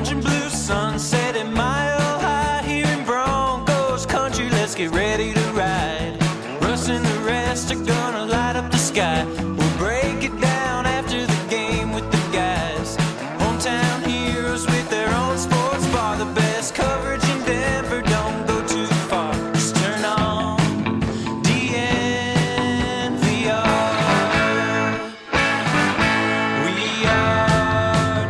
orange and blue sunset at Mile High here in Broncos country. Let's get ready to ride. Russ and the rest are gonna light up the sky. We'll break it down after the game with the guys. Hometown heroes with their own sports bar. The best coverage in Denver, don't go too far. Just turn on DNVR. We are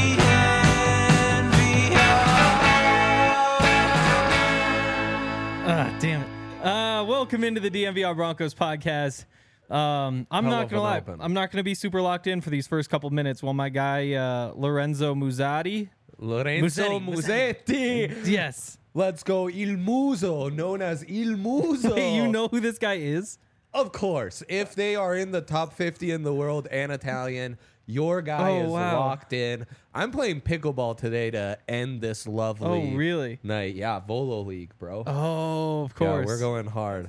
DNVR. Damn it. Welcome into the DNVR Broncos podcast. I'm not gonna lie. I'm not gonna be super locked in for these first couple minutes while my guy Lorenzo Musetti. Musetti. Yes. Let's go Il Muso, known as Il Muso. Hey, you know who this guy is? Of course. If they are in the top 50 in the world and Italian, your guy is locked in. I'm playing pickleball today to end this lovely really? night. Yeah, Volo League, bro. Oh, of course. Yeah, we're going hard.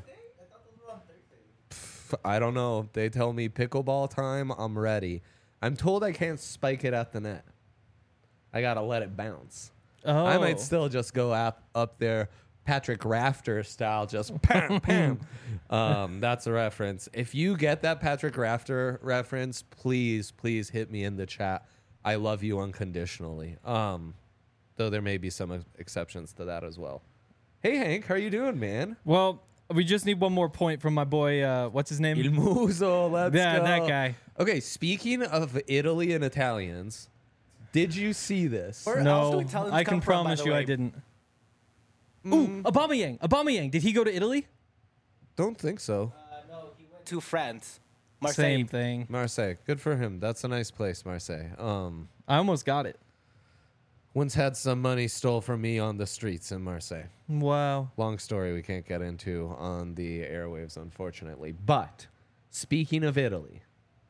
I don't know. They tell me pickleball time. I'm ready. I'm told I can't spike it at the net. I got to let it bounce. Oh. I might still just go up there, Patrick Rafter style, just pam, pam. That's a reference. If you get that Patrick Rafter reference, please hit me in the chat. I love you unconditionally. Though there may be some exceptions to that as well. Hey, Hank, how are you doing, man? Well, we just need one more point from my boy. What's his name? Il Muso, let's go. That guy. Okay, speaking of Italy and Italians, did you see this? Where else do No, Italians I come can from, by promise the you way? I didn't. Ooh, Aubameyang. Did he go to Italy? Don't think so. No, he went to France. Marseille. Same thing. Marseille, good for him. That's a nice place, Marseille. I almost got it. Once had some money stole from me on the streets in Marseille. Wow. Long story we can't get into on the airwaves, unfortunately. But speaking of Italy,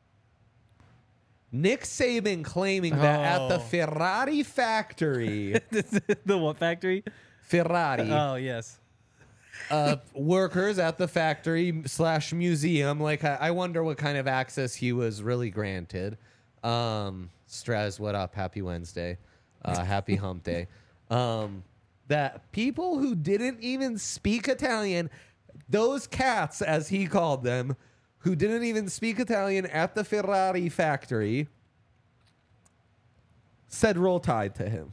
Nick Saban claiming that at the Ferrari factory, The what factory? Ferrari, Oh, yes. workers at the factory / museum, like I wonder what kind of access he was really granted. Straz, what up? Happy Wednesday. Happy hump day. That people who didn't even speak Italian, those cats, as he called them, who didn't even speak Italian at the Ferrari factory, said roll tide to him.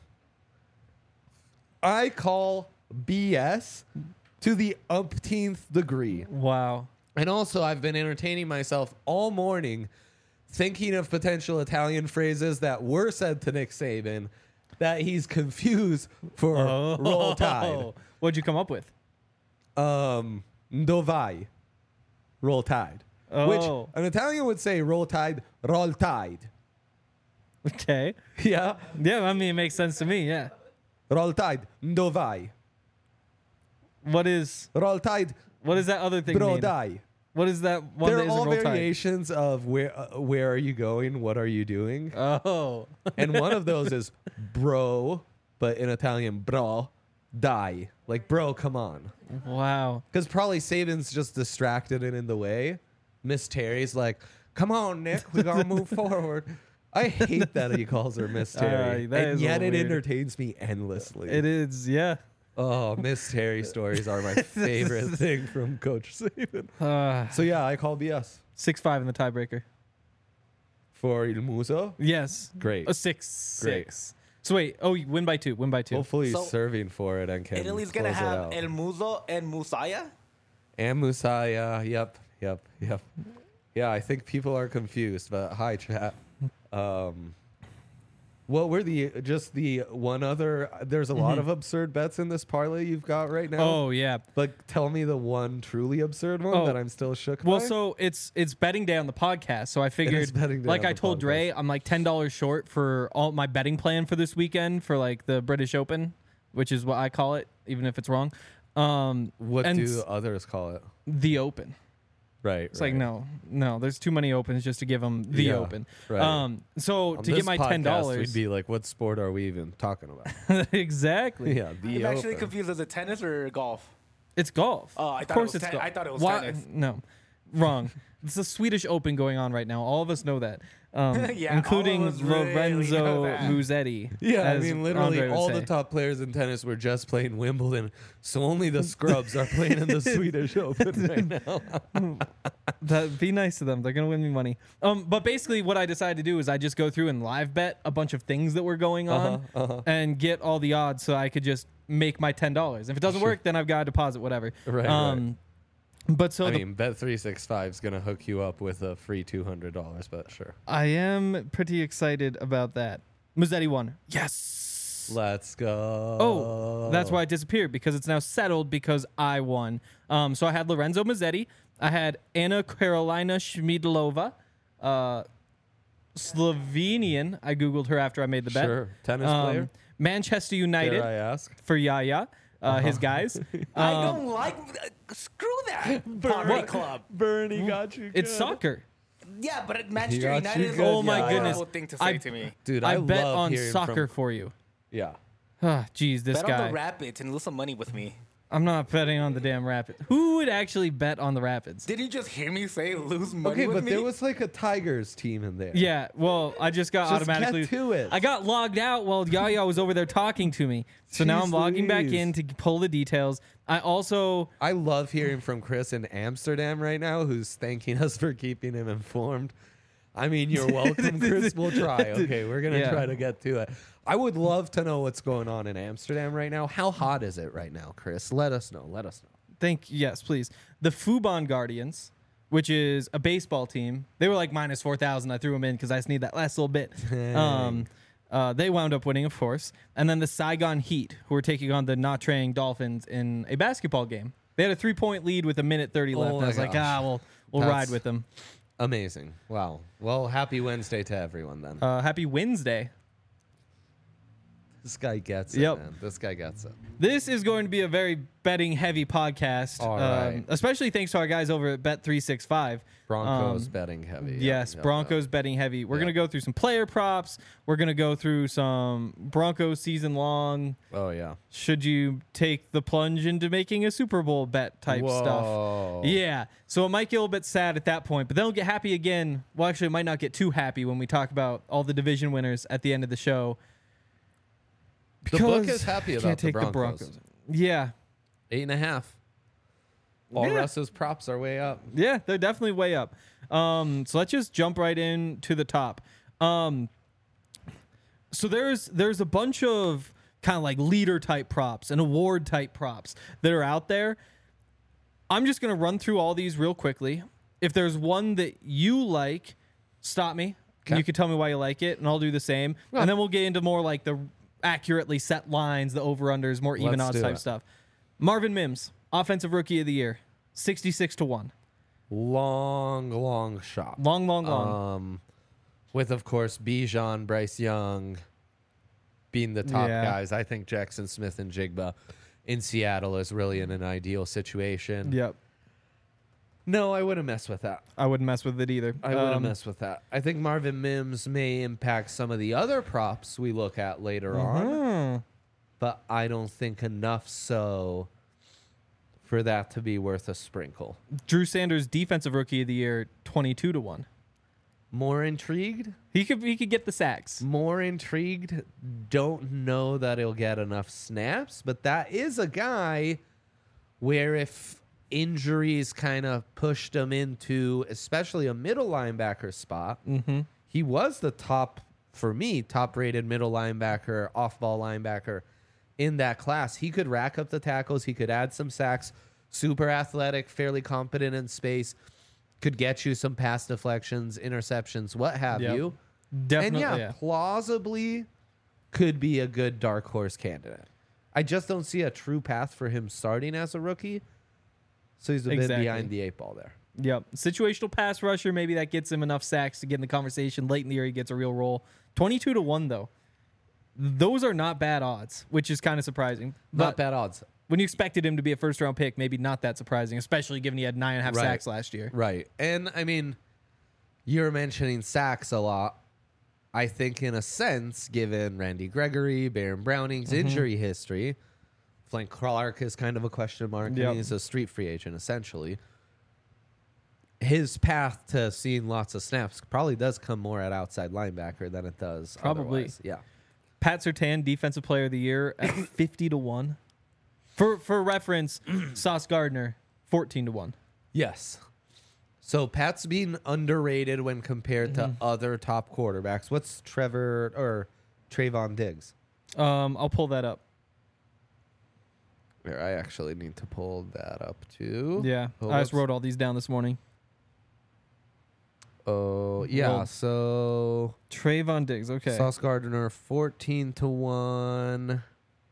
I call BS to the umpteenth degree. Wow. And also, I've been entertaining myself all morning thinking of potential Italian phrases that were said to Nick Saban that he's confused for roll tide. What'd you come up with? Dovai. Roll tide. Oh. Which an Italian would say roll tide, roll tide. Okay. Yeah? Yeah, I mean, it makes sense to me, yeah. Roll tide, dovai. What is Roll tide, that other thing mean? brodai. What is that one They're that isn't all roll tide? variations of where are you going? What are you doing? Oh. And one of those is bro, but in Italian, bro, die. Like, bro, come on. Wow. Because probably Saban's just distracted and in the way. Miss Terry's like, come on, Nick, we got to move forward. I hate that he calls her Miss Terry. that And is a yet little it weird. entertains me endlessly. It is, yeah. Oh, Miss Terry stories are my favorite thing from Coach Saban. So, yeah, I call BS. 6-5 in the tiebreaker. For Il Muso? Yes. Great. A 6. Great. So wait, you win by 2. Win by 2. Hopefully he's So, serving for it and can Italy's close gonna it have out. El Muso and Musaya. And Musaya. Yep. Yeah, I think people are confused, but hi, chat. What were the one other? There's a lot of absurd bets in this parlay you've got right now. Oh, yeah. But tell me the one truly absurd one that I'm still shook Well, by. so it's betting day on the podcast. So I figured, betting day like on I the told Dre, podcast. I'm like $10 short for all my betting plan for this weekend for like the British Open, which is what I call it, even if it's wrong. What and do others call it? the Open? Right. It's like no, there's too many opens just to give them the Yeah, Open. right. So On to this get my podcast, we'd $10, be like, what sport are we even talking about? exactly. Yeah, the I'm actually Open. confused. Is it tennis or golf? It's golf. Oh, I Of thought course it was it's golf. I thought it was Why- tennis. No. Wrong. It's a Swedish Open going on right now. All of us know that, Yeah, including all of us really Lorenzo know that. Musetti. Yeah, I as mean, literally Andre would all say. the top players in tennis were just playing Wimbledon, so only the scrubs are playing in the Swedish Open right now. Be nice to them. They're gonna win me money. But basically, what I decided to do is I just go through and live bet a bunch of things that were going on and get all the odds, so I could just make my $10. If it doesn't work, then I've got to deposit whatever. Right. But so I mean, Bet365 is gonna hook you up with a free $200, but sure. I am pretty excited about that. Musetti won. Yes. Let's go. Oh, that's why it disappeared, because it's now settled because I won. So I had Lorenzo Musetti. I had Anna Karolina Schmidlova, Slovenian. I Googled her after I made the bet. Sure. Tennis player. Manchester Dare United I ask? for Yaya, his guys. I don't like. Screw that pottery club. Bernie got you. It's soccer. Yeah, but Manchester got United you is good, a Oh my yeah. goodness. horrible thing to say I- to me. Dude, I I bet love on hearing soccer from, for you. Yeah. Ah, geez, this Bet guy. on the Rapids and lose some money with me. I'm not betting on the damn Rapids. Who would actually bet on the Rapids? Did you just hear me say lose money Okay, with but me? there was like a Tigers team in there. Yeah, well, I just got Just automatically. get to it. I got logged out while Yaya was over there talking to me. So now Jeez I'm logging back Louise. in to pull the details. I also. I love hearing from Chris in Amsterdam right now, who's thanking us for keeping him informed. I mean, you're welcome, Chris. We'll try. Okay, we're gonna Yeah. try to get to it. I would love to know what's going on in Amsterdam right now. How hot is it right now, Chris? Let us know. Let us know. Yes, please. The Fubon Guardians, which is a baseball team, they were like minus 4,000. I threw them in because I just need that last little bit. They wound up winning, of course. And then the Saigon Heat, who were taking on the Nha Trang Dolphins in a basketball game. They had a 3-point lead with a minute 30 left. Oh And I was my like, gosh. we'll That's- ride with them. Amazing. Wow. Well, happy Wednesday to everyone then. Happy Wednesday. This guy gets it, Yep. man. This guy gets it. This is going to be a very betting heavy podcast, All right. especially thanks to our guys over at Bet365. Broncos betting heavy. Yes, Yep, Broncos betting heavy. We're Yep. going to go through some player props. We're going to go through some Broncos season long. Oh, yeah. Should you take the plunge into making a Super Bowl bet type Whoa. stuff? Yeah. So it might get a little bit sad at that point, but then we'll get happy again. Well, actually, it might not get too happy when we talk about all the division winners at the end of the show. The book Because is happy I about can't the take Broncos. Yeah. 8.5. All Yeah. Russ's props are way up. Yeah, they're definitely way up. So let's just jump right in to the top. So there's a bunch of kind of like leader type props and award type props that are out there. I'm just gonna run through all these real quickly. If there's one that you like, stop me. Okay. You can tell me why you like it, and I'll do the same. Yeah. And then we'll get into more like the accurately set lines, the over-unders, more even Let's odds do type it. stuff. Marvin Mims, Offensive Rookie of the Year, 66-1. Long shot. Long. With, of course, Bijan, Bryce Young being the top Yeah. guys. I think Jackson Smith and Jigba in Seattle is really in an ideal situation. Yep. No, I wouldn't mess with that. I wouldn't mess with it either. I wouldn't mess with that. I think Marvin Mims may impact some of the other props we look at later on, but I don't think enough so for that to be worth a sprinkle. Drew Sanders, Defensive Rookie of the Year, 22-1. More intrigued? He could get the sacks. More intrigued. Don't know that he'll get enough snaps, but that is a guy where if injuries kind of pushed him into especially a middle linebacker spot, he was the top rated middle linebacker, off-ball linebacker in that class. He could rack up the tackles. He could add some sacks. Super athletic, fairly competent in space. Could get you some pass deflections, interceptions, what have Yep. you. Definitely. And yeah, plausibly could be a good dark horse candidate. I just don't see a true path for him starting as a rookie. So he's a bit Exactly. behind the 8 ball there. Yep. Situational pass rusher, maybe that gets him enough sacks to get in the conversation. Late in the year, he gets a real role. 22-1, though. Those are not bad odds, which is kind of surprising. Not But bad odds. when you expected him to be a first-round pick, maybe not that surprising, especially given he had 9.5 Right. sacks last year. Right. And I mean, you're mentioning sacks a lot. I think in a sense, given Randy Gregory, Baron Browning's injury history, Frank Clark is kind of a question mark. Yep. And he's a street free agent, essentially. his path to seeing lots of snaps probably does come more at outside linebacker than it does Probably. otherwise. Yeah. Pat Surtain, Defensive Player of the Year at 50-1. For reference, Sauce Gardner, 14-1. Yes. So Pat's being underrated when compared to other top quarterbacks. What's Trayvon Diggs? I'll pull that up. Here, I actually need to pull that up too. Yeah, Oh, I just what's- wrote all these down this morning. Oh, yeah. Well, So Trayvon Diggs, okay. Sauce Gardner 14-1.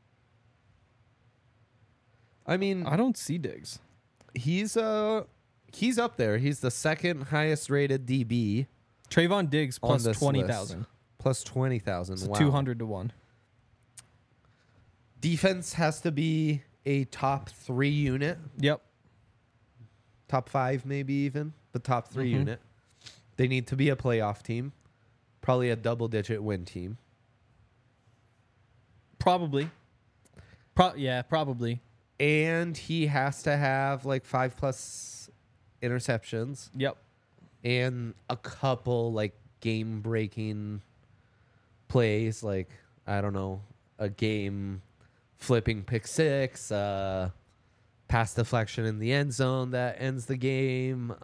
I mean, I don't see Diggs. he's up there. He's the second highest rated DB Trayvon Diggs on plus this 20,000. list. Plus 20,000. So Wow. 200-1. Defense has to be a top 3 unit, Yep. top 5 maybe even, but top 3 Mhm. unit. They need to be a playoff team, probably a double-digit win team. Probably. Yeah, probably. And he has to have like 5+ interceptions Yep. and a couple like game-breaking plays, like I don't know, a game flipping pick six, pass deflection in the end zone that ends the game.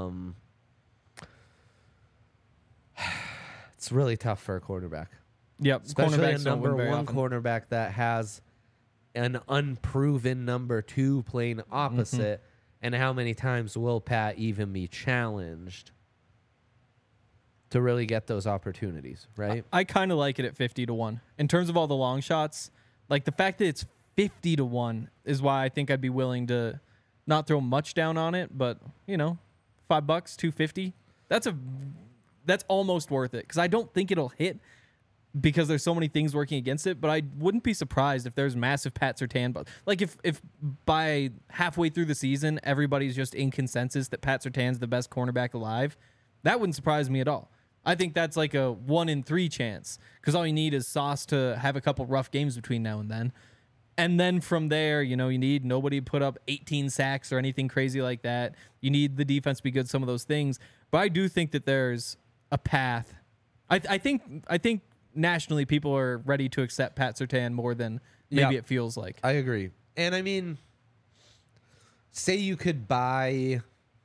It's really tough for a quarterback, Yep. especially a Cornerbacks don't win number very one often. cornerback that has an unproven number 2 playing opposite. And how many times will Pat even be challenged to really get those opportunities, right? I kind of like it at 50-1. In terms of all the long shots, like the fact that it's 50-1 is why I think I'd be willing to not throw much down on it, but you know, $5, $250. That's almost worth it because I don't think it'll hit because there's so many things working against it. But I wouldn't be surprised if there's massive Pat Surtain. But like if by halfway through the season everybody's just in consensus that Pat Surtain's the best cornerback alive, that wouldn't surprise me at all. I think that's like a 1 in 3 chance because all you need is Sauce to have a couple rough games between now and then. And then from there, you know, you need nobody put up 18 sacks or anything crazy like that. You need the defense to be good, some of those things. But I do think that there's a path. I think nationally people are ready to accept Pat Surtain more than maybe Yeah. it feels like. I agree. And I mean, say you could buy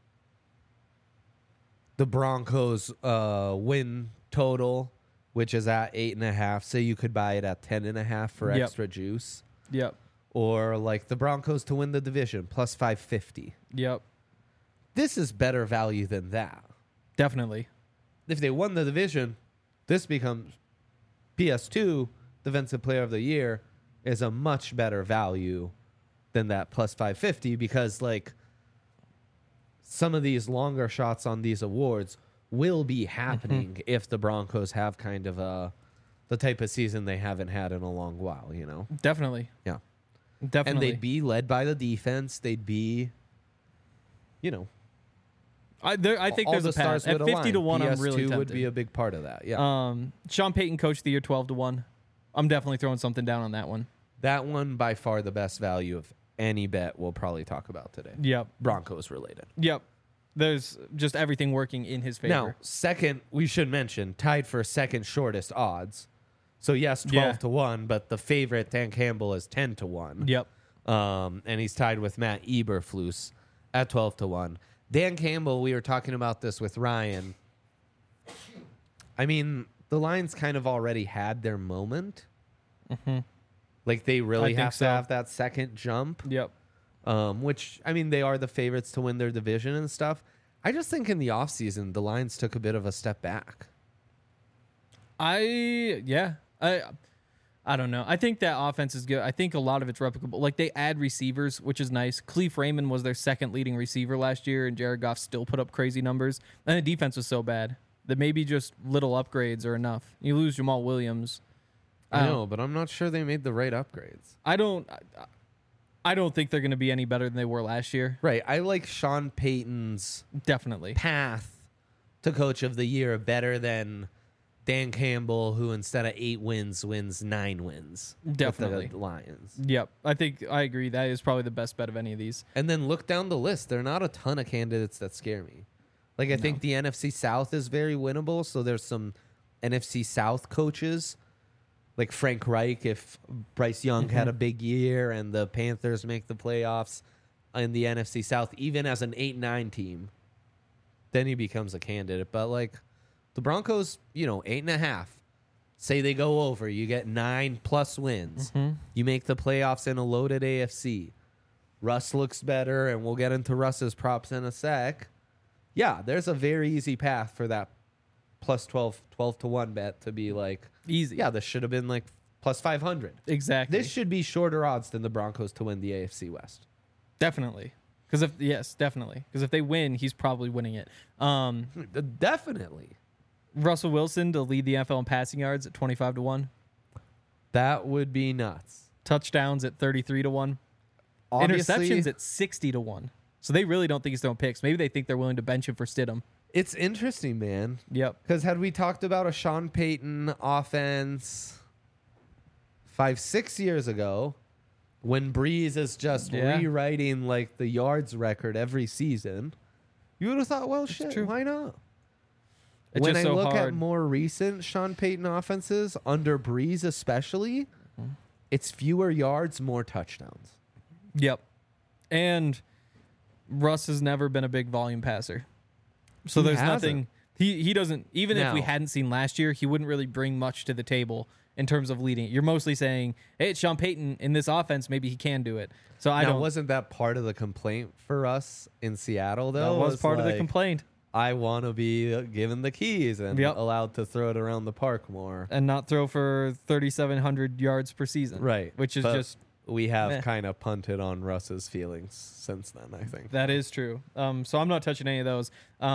the Broncos win total, which is at 8.5. Say you could buy it at 10.5 for Yep. extra juice. Yep. Or like the Broncos to win the division plus 550. Yep. This is better value than that. Definitely. If they won the division, this becomes PS2 Defensive Player of the Year is a much better value than that plus 550 because like some of these longer shots on these awards will be happening if the Broncos have kind of the type of season they haven't had in a long while, you know. Definitely. Yeah. And Definitely. they'd be led by the defense. They'd be, you know, I think all there's the a path. stars At would align. 50-1, I'm really PS2 tempted. would be a big part of that. Yeah. Sean Payton, Coach of the Year, 12-1. I'm definitely throwing something down on that one. That one by far the best value of any bet we'll probably talk about today. Yep. Broncos related. Yep. There's just everything working in his favor. Now, second, we should mention, tied for second shortest odds. So yes, 12-1, but the favorite Dan Campbell is 10-1. Yep. And he's tied with Matt Eberflus at 12-1. Dan Campbell, we were talking about this with Ryan. I mean, the Lions kind of already had their moment. Like they really think have so. to have that second jump. Yep. Which, I mean, they are the favorites to win their division and stuff. I just think in the offseason, the Lions took a bit of a step back. I don't know. I think that offense is good. I think a lot of it's replicable. Like they add receivers, which is nice. Cleve Raymond was their second leading receiver last year, and Jared Goff still put up crazy numbers. And the defense was so bad that maybe just little upgrades are enough. You lose Jamal Williams. I know, but I'm not sure they made the right upgrades. I don't think they're going to be any better than they were last year. Right. I like Sean Payton's Definitely. path to Coach of the Year better than Dan Campbell, who instead of 8 wins, wins 9 wins. Definitely. With the Lions. Yep. I agree. That is probably the best bet of any of these. And then look down the list. There are not a ton of candidates that scare me. Like, I think the NFC South is very winnable. So there's some NFC South coaches, like Frank Reich, if Bryce Young had a big year and the Panthers make the playoffs in the NFC South, even as an 8-9 team, then he becomes a candidate. But, like, the Broncos, 8.5. Say they go over, you get 9+ wins. You make the playoffs in a loaded AFC. Russ looks better, and we'll get into Russ's props in a sec. Yeah, there's a very easy path for that plus 12 to 1 bet to be like, Easy. yeah, this should have been like plus 500. Exactly. This should be shorter odds than the Broncos to win the AFC West. Definitely. Definitely. Because if they win, he's probably winning it. Definitely. Russell Wilson to lead the NFL in passing yards at 25 to 1. That would be nuts. Touchdowns at 33 to 1. Obviously, Interceptions at 60 to 1. So they really don't think he's throwing picks. Maybe they think they're willing to bench him for Stidham. it's interesting, man. Yep. Because had we talked about a Sean Payton offense 5-6 years ago, when Breeze is just rewriting like the yards record every season, you would have thought, well, shit, true. why not? It's When I just so look hard. at more recent Sean Payton offenses, under Breeze especially, it's fewer yards, more touchdowns. Yep. And Russ has never been a big volume passer. So He there's hasn't. nothing he doesn't, even if we Now- hadn't seen last year, he wouldn't really bring much to the table in terms of leading it. You're mostly saying, hey, it's Sean Payton in this offense, maybe he can do it. So I Now, don't wasn't that part of the complaint for us in Seattle, though? that was part of the like, complaint. I want to be given the keys and Yep. allowed to throw it around the park more. And not throw for 3,700 yards per season. Right. Which is But just, we have meh. kind of punted on Russ's feelings since then, I think. that is true. So I'm not touching any of those.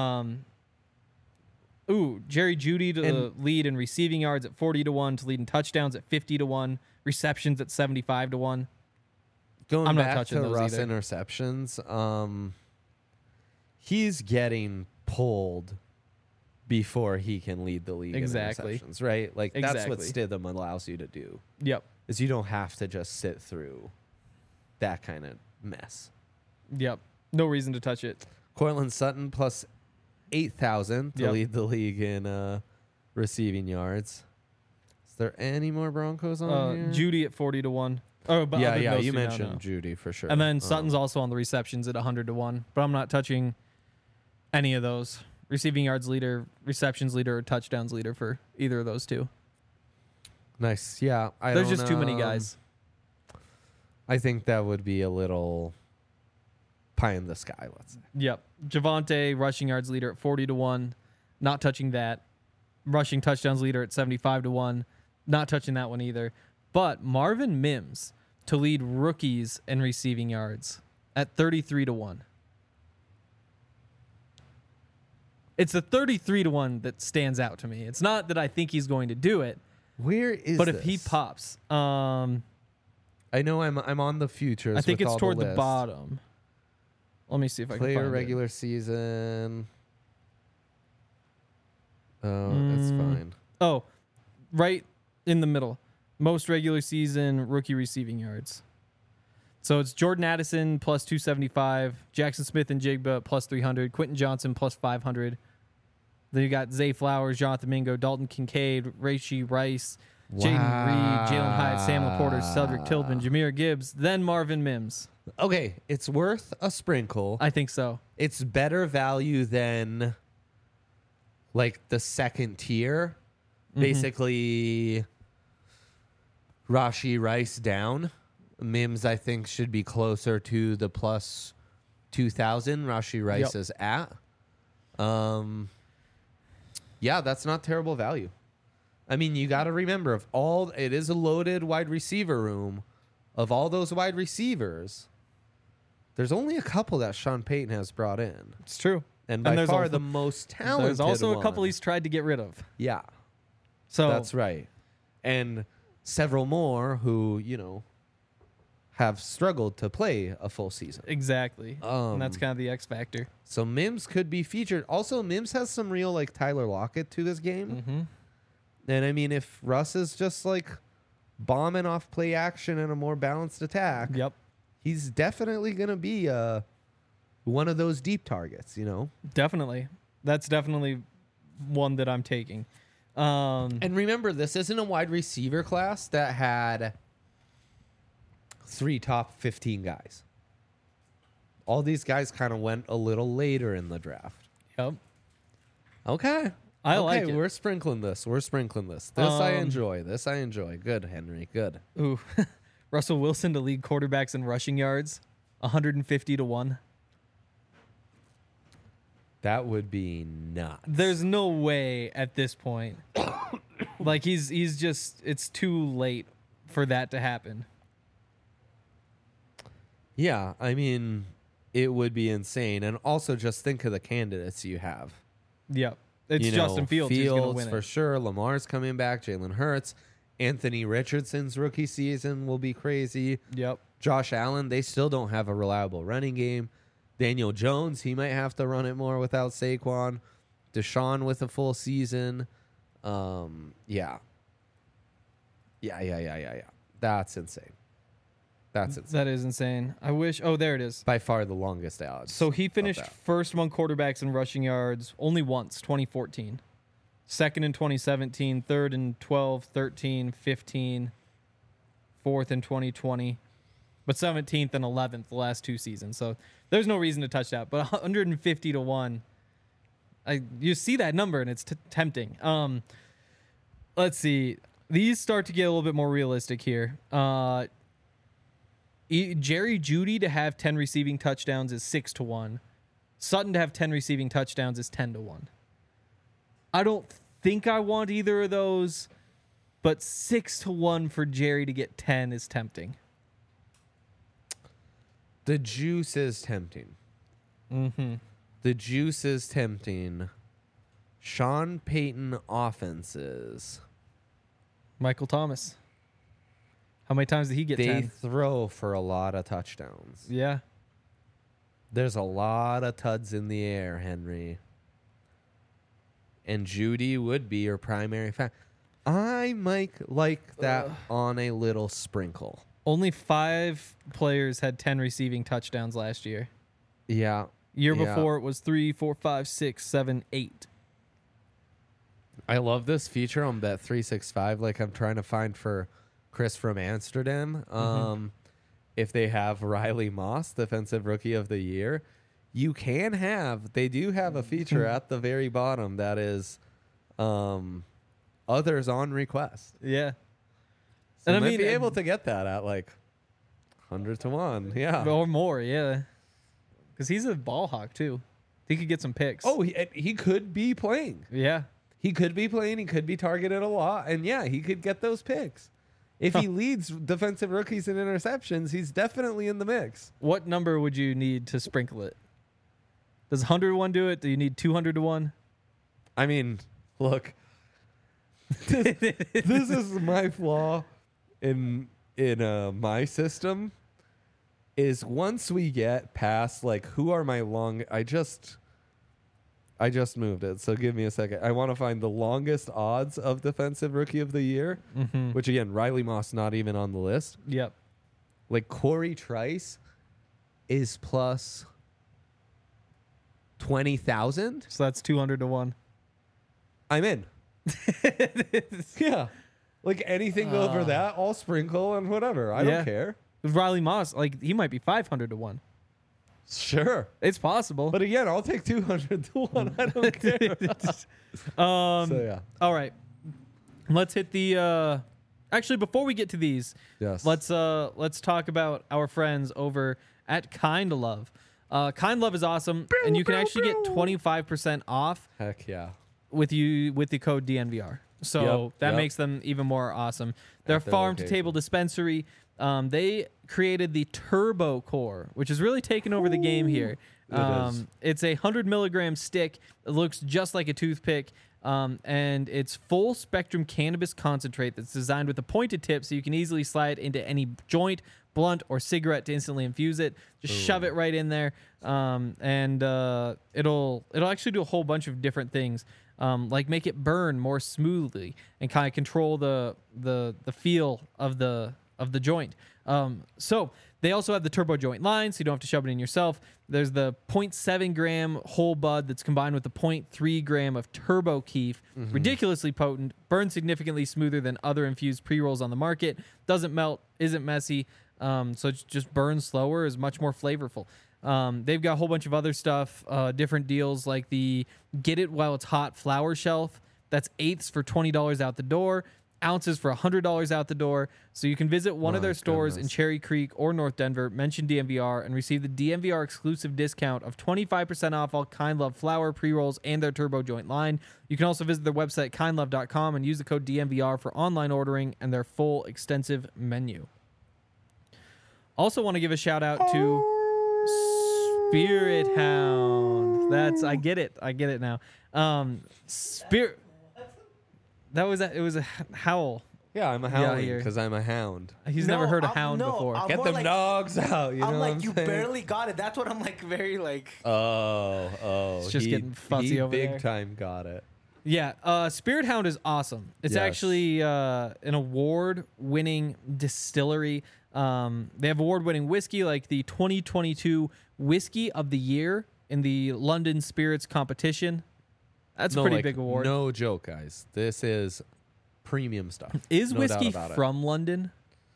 Jerry Jeudy to And- lead in receiving yards at 40 to 1, to lead in touchdowns at 50 to 1, receptions at 75 to 1. Going I'm not back touching to those Russ either. interceptions, he's getting pulled before he can lead the league Exactly. in interceptions, right? Like that's what Exactly. Stidham allows you to do. Yep. Is you don't have to just sit through that kind of mess. Yep. No reason to touch it. Cortland Sutton plus 8,000 to Yep. lead the league in receiving yards. Is there any more Broncos on here? Judy at 40 to 1. Oh, but other than yeah, those you two, no, mentioned no. Judy for sure. And then Sutton's also on the receptions at 100 to 1. But I'm not touching any of those. Receiving yards leader, receptions leader, or touchdowns leader for either of those two. Nice. Yeah. There's just too many guys. I think that would be a little pie in the sky, let's say. Yep. Javonte, rushing yards leader at 40 to 1. Not touching that. Rushing touchdowns leader at 75 to 1. Not touching that one either. But Marvin Mims to lead rookies in receiving yards at 33 to 1. It's the 33 to 1 that stands out to me. It's not that I think he's going to do it, Where is but this? if he pops, I know I'm on the futures. I think with it's all toward the list. bottom. Let me see if I can Player find regular season. Oh, it's Mm. fine. it. Oh, right in the middle. Most regular season rookie receiving yards. So it's Jordan Addison plus 275, Jackson Smith and Jigba plus 300, Quentin Johnson plus 500. Then you got Zay Flowers, Jonathan Mingo, Dalton Kincaid, Rashee Rice, Jaden Reed, Jalen Hyatt, Sam Laporta, Cedric Tillman, Jameer Gibbs, then Marvin Mims. Okay, it's worth a sprinkle. I think so. It's better value than like the second tier. Mm-hmm. Basically, Rashee Rice down. Mims, I think, should be closer to the plus 2,000 Rashee Rice Yep. is at. Yeah, that's not terrible value. I mean, you got to remember, it is a loaded wide receiver room. Of all those wide receivers, there's only a couple that Sean Payton has brought in. It's true. And by there's far also- the most talented There's also a couple one. he's tried to get rid of. Yeah, So that's right. And several more who, have struggled to play a full season. exactly. And that's kind of the X factor. So Mims could be featured. Also, Mims has some real like Tyler Lockett to this game. Mm-hmm. And I mean, if Russ is just like bombing off play action and a more balanced attack, Yep. he's definitely going to be one of those deep targets, Definitely. That's definitely one that I'm taking. And remember, this isn't a wide receiver class that had 3 top 15 guys. All these guys kind of went a little later in the draft. Yep. Okay. I like it. We're sprinkling this. This I enjoy. Good, Henry. Good. Ooh. Russell Wilson to lead quarterbacks in rushing yards, 150-1. That would be nuts. There's no way at this point. Like he's just it's too late for that to happen. Yeah, I mean, it would be insane. And also just think of the candidates you have. Yep. It's Justin Fields who's going to win for it. sure. Lamar's coming back. Jalen Hurts. Anthony Richardson's rookie season will be crazy. Yep. Josh Allen, they still don't have a reliable running game. Daniel Jones, he might have to run it more without Saquon. Deshaun with a full season. Yeah. That's insane. That is insane. I wish. Oh, there it is. By far the longest odds. So he of finished that. first among quarterbacks in rushing yards only once, 2014. Second in 2017, third in 12, 13, 15, fourth in 2020, but 17th and 11th the last 2 seasons. So there's no reason to touch that. But 150-1, you see that number and it's tempting. Let's see. These start to get a little bit more realistic here. Jerry Jeudy to have 10 receiving touchdowns is 6-1. Sutton to have 10 receiving touchdowns is 10-1. I don't think I want either of those, but 6-1 for Jerry to get 10 is tempting. The juice is tempting. Mm-hmm. The juice is tempting. Sean Payton offenses. Michael Thomas. How many times did he get They 10? throw for a lot of touchdowns. Yeah. There's a lot of tuds in the air, Henry. And Judy would be your primary factor. I might like that on a little sprinkle. Only 5 players had 10 receiving touchdowns last year. Yeah. Year before it was 3, 4, 5, 6, 7, 8. I love this feature on Bet365. Like I'm trying to find for Chris from Amsterdam. If they have Riley Moss, Defensive Rookie of the Year, they do have a feature at the very bottom that is others on request. Yeah. So And I might mean, be able to get that at like 100-1. Yeah. Or more, yeah. Because he's a ball hawk, too. He could get some picks. Oh, he could be playing. Yeah. He could be playing. He could be targeted a lot. And yeah, he could get those picks. If he leads defensive rookies in interceptions, he's definitely in the mix. What number would you need to sprinkle it? Does 100-1 do it? Do you need 200-1? I mean, look, this is my flaw in my system. Is once we get past like who are my long, I just moved it, so give me a second. I want to find the longest odds of Defensive Rookie of the Year, which again, Riley Moss not even on the list. Yep. Like Corey Trice is plus 20,000. So that's 200-1. I'm in. Yeah, like anything over that, I'll sprinkle and whatever. I Yeah. don't care. Riley Moss, like he might be 500-1. Sure. It's possible. But again, I'll take 200-1. I don't care. So yeah. All right. Let's hit the actually before we get to these, Yes. let's talk about our friends over at Kind Love. Kind Love is awesome, and you can actually get 25% off Heck yeah. with the code DNVR. So Yep, that yep. makes them even more awesome. They're At their farm to location. table dispensary. They created the Turbo Core, which is really taking over the game here. is. It's a 100 milligram stick. It looks just like a toothpick. And it's full spectrum cannabis concentrate that's designed with a pointed tip so you can easily slide into any joint, blunt, or cigarette to instantly infuse it. Just shove it right in there. And it'll actually do a whole bunch of different things. Like make it burn more smoothly and kind of control the feel of the joint. So They also have the turbo joint line, so you don't have to shove it in yourself. There's the 0.7 gram whole bud that's combined with the 0.3 gram of turbo keef. Ridiculously potent, burns significantly smoother than other infused pre-rolls on the market. Doesn't melt, isn't messy, so it just burns slower, is much more flavorful. They've got a whole bunch of other stuff, different deals like the Get It While It's Hot flower shelf. That's eighths for $20 out the door. Ounces for $100 out the door. So you can visit one of their stores in Cherry Creek or North Denver, mention DMVR, and receive the DMVR exclusive discount of 25% off all Kind Love flower pre-rolls and their turbo joint line. You can also visit their website, kindlove.com, and use the code DMVR for online ordering and their full extensive menu. Also want to give a shout out to Spirit Hound. I get it now. Spirit... It was a howl. Yeah, I'm a howling because I'm a hound. He's never heard a hound before. I'm Get more them like- dogs out. You know I'm what like, I'm you saying? barely got it. That's what I'm like, very like. Oh. It's just getting fussy he over big there. time got it. Yeah, Spirit Hound is awesome. It's Yes. actually an award-winning distillery. They have award-winning whiskey like the 2022 Whiskey of the Year in the London Spirits competition. That's a pretty big award. No joke, guys. This is premium stuff. Is No whiskey doubt about it. from London?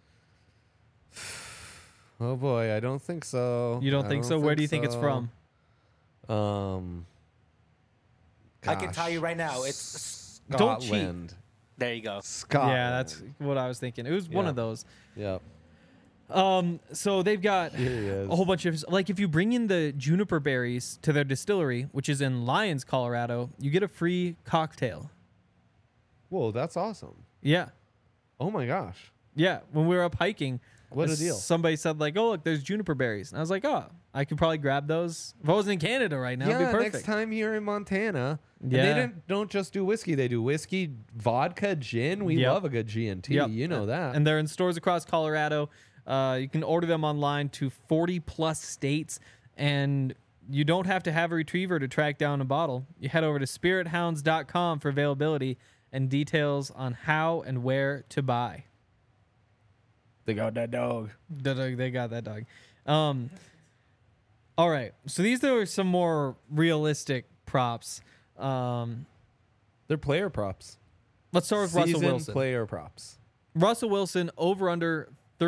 Oh boy, I don't think so. You don't think so? Where do you think it's so. from? I can tell you gosh. right now, it's. Don't cheat. Scotland. There you go. Scotland. Yeah, that's what I was thinking. It was one Yeah. of those. Yep. So they've got Here he is. a whole bunch of, like, if you bring in the juniper berries to their distillery, which is in Lyons, Colorado, you get a free cocktail. Whoa, that's awesome. Yeah. Oh my gosh. Yeah. When we were up hiking, What a deal. somebody said, like, oh, look, there's juniper berries. And I was like, oh, I could probably grab those. If I wasn't in Canada right now, it'd be perfect. next time you're in Montana. And Yeah. they don't just do whiskey. They do whiskey, vodka, gin. We Yep. love a good G&T. Yep. You know that. And they're in stores across Colorado. You can order them online to 40 plus states, and you don't have to have a retriever to track down a bottle. You head over to spirithounds.com for availability and details on how and where to buy. they got that dog. They got that dog. All right. So these are some more realistic props. They're player props. Let's start with Russell Seasoned Wilson. player props. Russell Wilson over under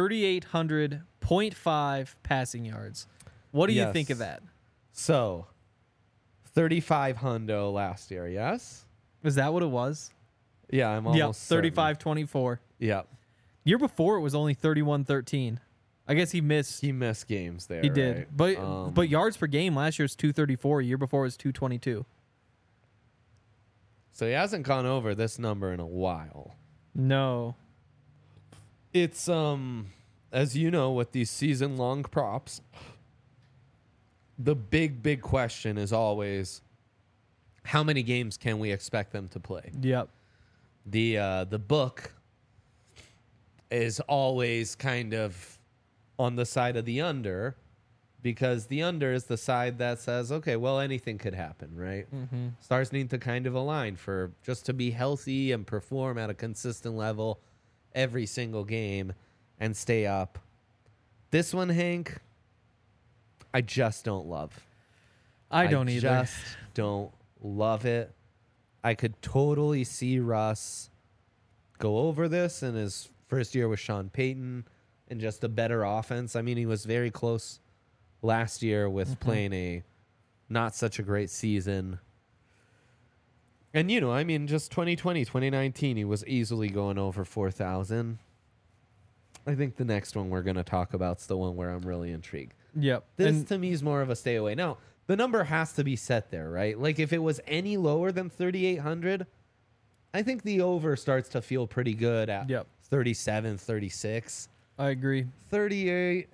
3,800.5 passing yards. What do you Yes. think of that? So, 35 hundo last year, yes? Is that what it was? Yeah, I'm Yep, almost certain. 35-24. Yeah. Year before it was only 31-13. I guess he missed. He missed games there. He did. right? But yards per game last year was 234. Year before it was 222. So he hasn't gone over this number in a while. No. It's as you know, with these season long props, the big question is always how many games can we expect them to play? Yep. The book is always kind of on the side of the under, because the under is the side that says, okay, well, anything could happen, right? Mm-hmm. Stars need to kind of align for just to be healthy and perform at a consistent level every single game and stay up. This one, Hank, I just don't love. I don't either. Just don't love it. I could totally see Russ go over this in his first year with Sean Payton and just a better offense. I mean, he was very close last year with playing a not such a great season. And, you know, I mean, just 2020, 2019, he was easily going over 4,000. I think the next one we're going to talk about is the one where I'm really intrigued. Yep. This, And to me, is more of a stay away. Now, the number has to be set there, right? Like, if it was any lower than 3,800, I think the over starts to feel pretty good at Yep. 37, 36. I agree. 38,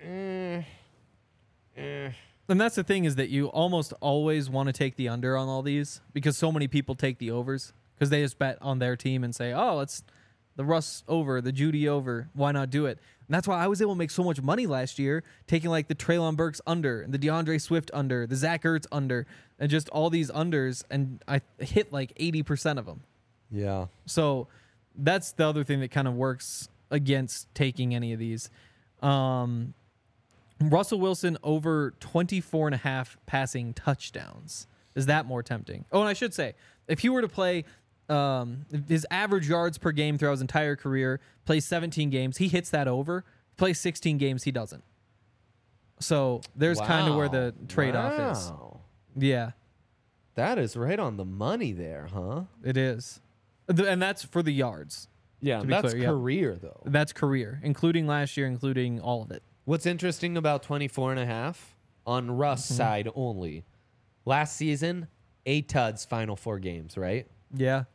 And that's the thing, is that you almost always want to take the under on all these because so many people take the overs because they just bet on their team and say, oh, it's the Russ over, the Judy over. Why not do it? And that's why I was able to make so much money last year, taking like the Treylon Burks under and the DeAndre Swift under, the Zach Ertz under, and just all these unders. And I hit like 80% of them. yeah. So that's the other thing that kind of works against taking any of these. Russell Wilson over 24 and a half passing touchdowns. Is that more tempting? Oh, and I should say, if he were to play his average yards per game throughout his entire career, plays 17 games, he hits that over. Plays 16 games, he doesn't. So there's kind of where the trade-off is. Yeah. That is right on the money there, huh? It is. And that's for the yards. Yeah, to be that's clear, yeah. career, though. That's career, including last year, including all of it. What's interesting about 24.5 on Russ' side only, last season, 8 tuds, final 4 games, right? Yeah.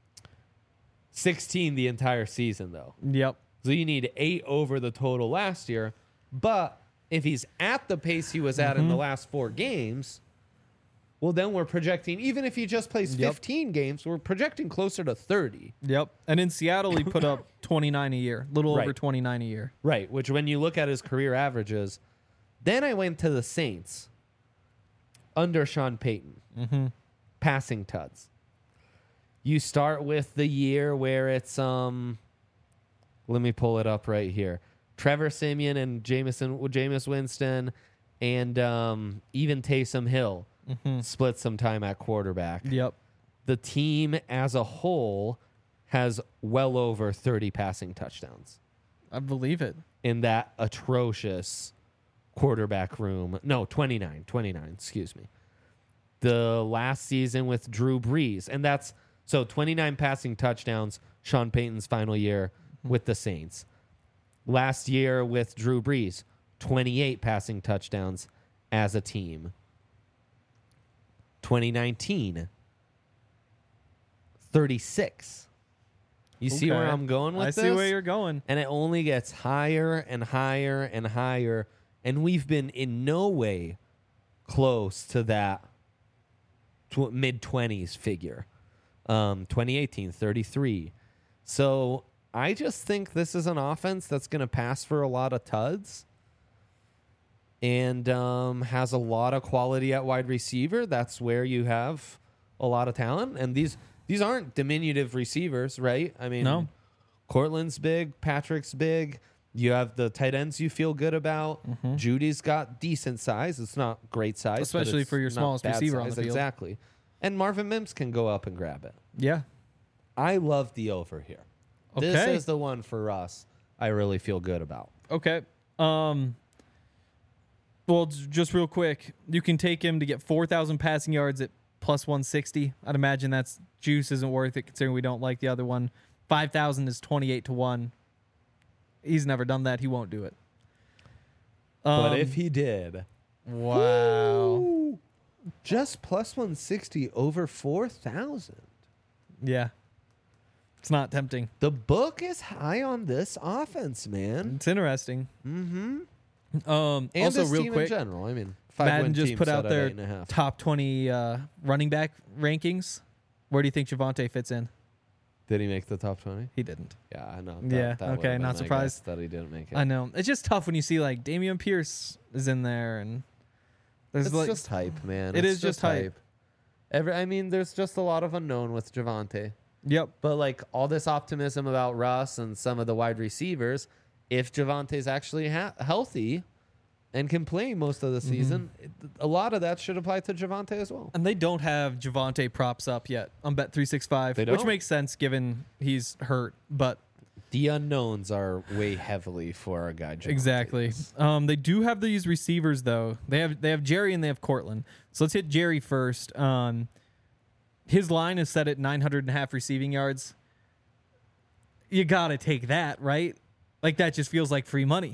16 the entire season, though. Yep. So you need 8 over the total last year. But if he's at the pace he was at in the last 4 games, well, then we're projecting, even if he just plays 15 games, we're projecting closer to 30. Yep. And in Seattle, he put up 29 a year, a little over Right. 29 a year. Right, which when you look at his career averages, then I went to the Saints under Sean Payton, passing tuds. You start with the year where it's, let me pull it up right here. Trevor Siemian and Jameis Winston and even Taysom Hill split some time at quarterback. Yep. The team as a whole has well over 30 passing touchdowns I believe it. in that atrocious quarterback room. No, 29, excuse me. The last season with Drew Brees. And that's, so 29 passing touchdowns, Sean Payton's final year with the Saints. Last year with Drew Brees, 28 passing touchdowns as a team. 2019, 36. You see where Okay. I'm going with I this? see where you're going. And it only gets higher and higher and higher. And we've been in no way close to that mid-20s figure. 2018, 33. So I just think this is an offense that's going to pass for a lot of tuds and has a lot of quality at wide receiver. That's where you have a lot of talent. And these aren't diminutive receivers, right? I mean, No. Cortland's big, Patrick's big. You have the tight ends you feel good about. Judy's got decent size. It's not great size, but Especially it's for your not smallest bad receiver on the size. field. Exactly. And Marvin Mims can go up and grab it. Yeah. I love the over here. This Okay. is the one for us I really feel good about. Okay. Well, just real quick, you can take him to get 4,000 passing yards at plus 160. I'd imagine that's juice isn't worth it considering we don't like the other one. 5,000 is 28 to 1. He's never done that. He won't do it. But if he did, Wow. just plus 160 over 4,000. Yeah. It's not tempting. The book is high on this offense, man. It's interesting. And Also, this real team quick, in general. I mean, Madden 5-win just team put set out at their 8.5. top 20 running back rankings. Where do you think Javonte fits in? Did he make the top 20? He didn't. Yeah, I know. Yeah, would've okay, been not my surprised. guess that he didn't make it. I know. It's just tough when you see like Damian Pierce is in there and there's It's like just hype, man. It It's is just hype. I mean, there's just a lot of unknown with Javonte. Yep. But like all this optimism about Russ and some of the wide receivers, if Javonte's actually healthy and can play most of the season, a lot of that should apply to Javonte as well. And they don't have Javonte props up yet on Bet365, They which don't? makes sense given he's hurt, but The unknowns are way heavily for a guy. Javonte exactly. is. They do have these receivers though. They have Jerry and they have Cortland. So let's hit Jerry first. His line is set at 900.5 receiving yards. You got to take that, right? Like that just feels like free money.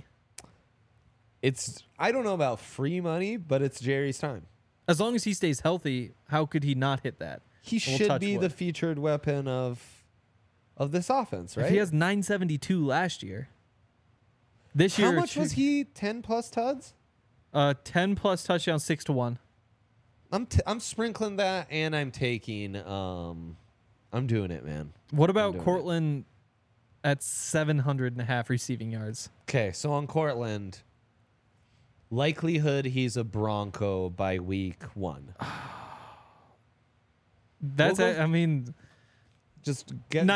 I don't know about free money, but it's Jerry's time. As long as he stays healthy, how could he not hit that? He We'll should touch be wood. the featured weapon of this offense, right? If he has 972 last year. This year, How much was he? 10 plus tuds? 10 plus touchdowns, 6 to 1. I'm sprinkling that, and I'm taking. I'm doing it, man. What I'm about doing Cortland at 700.5 receiving yards? Okay, so on Cortland, likelihood he's a Bronco by week 1. That's, We'll go- I mean, Just get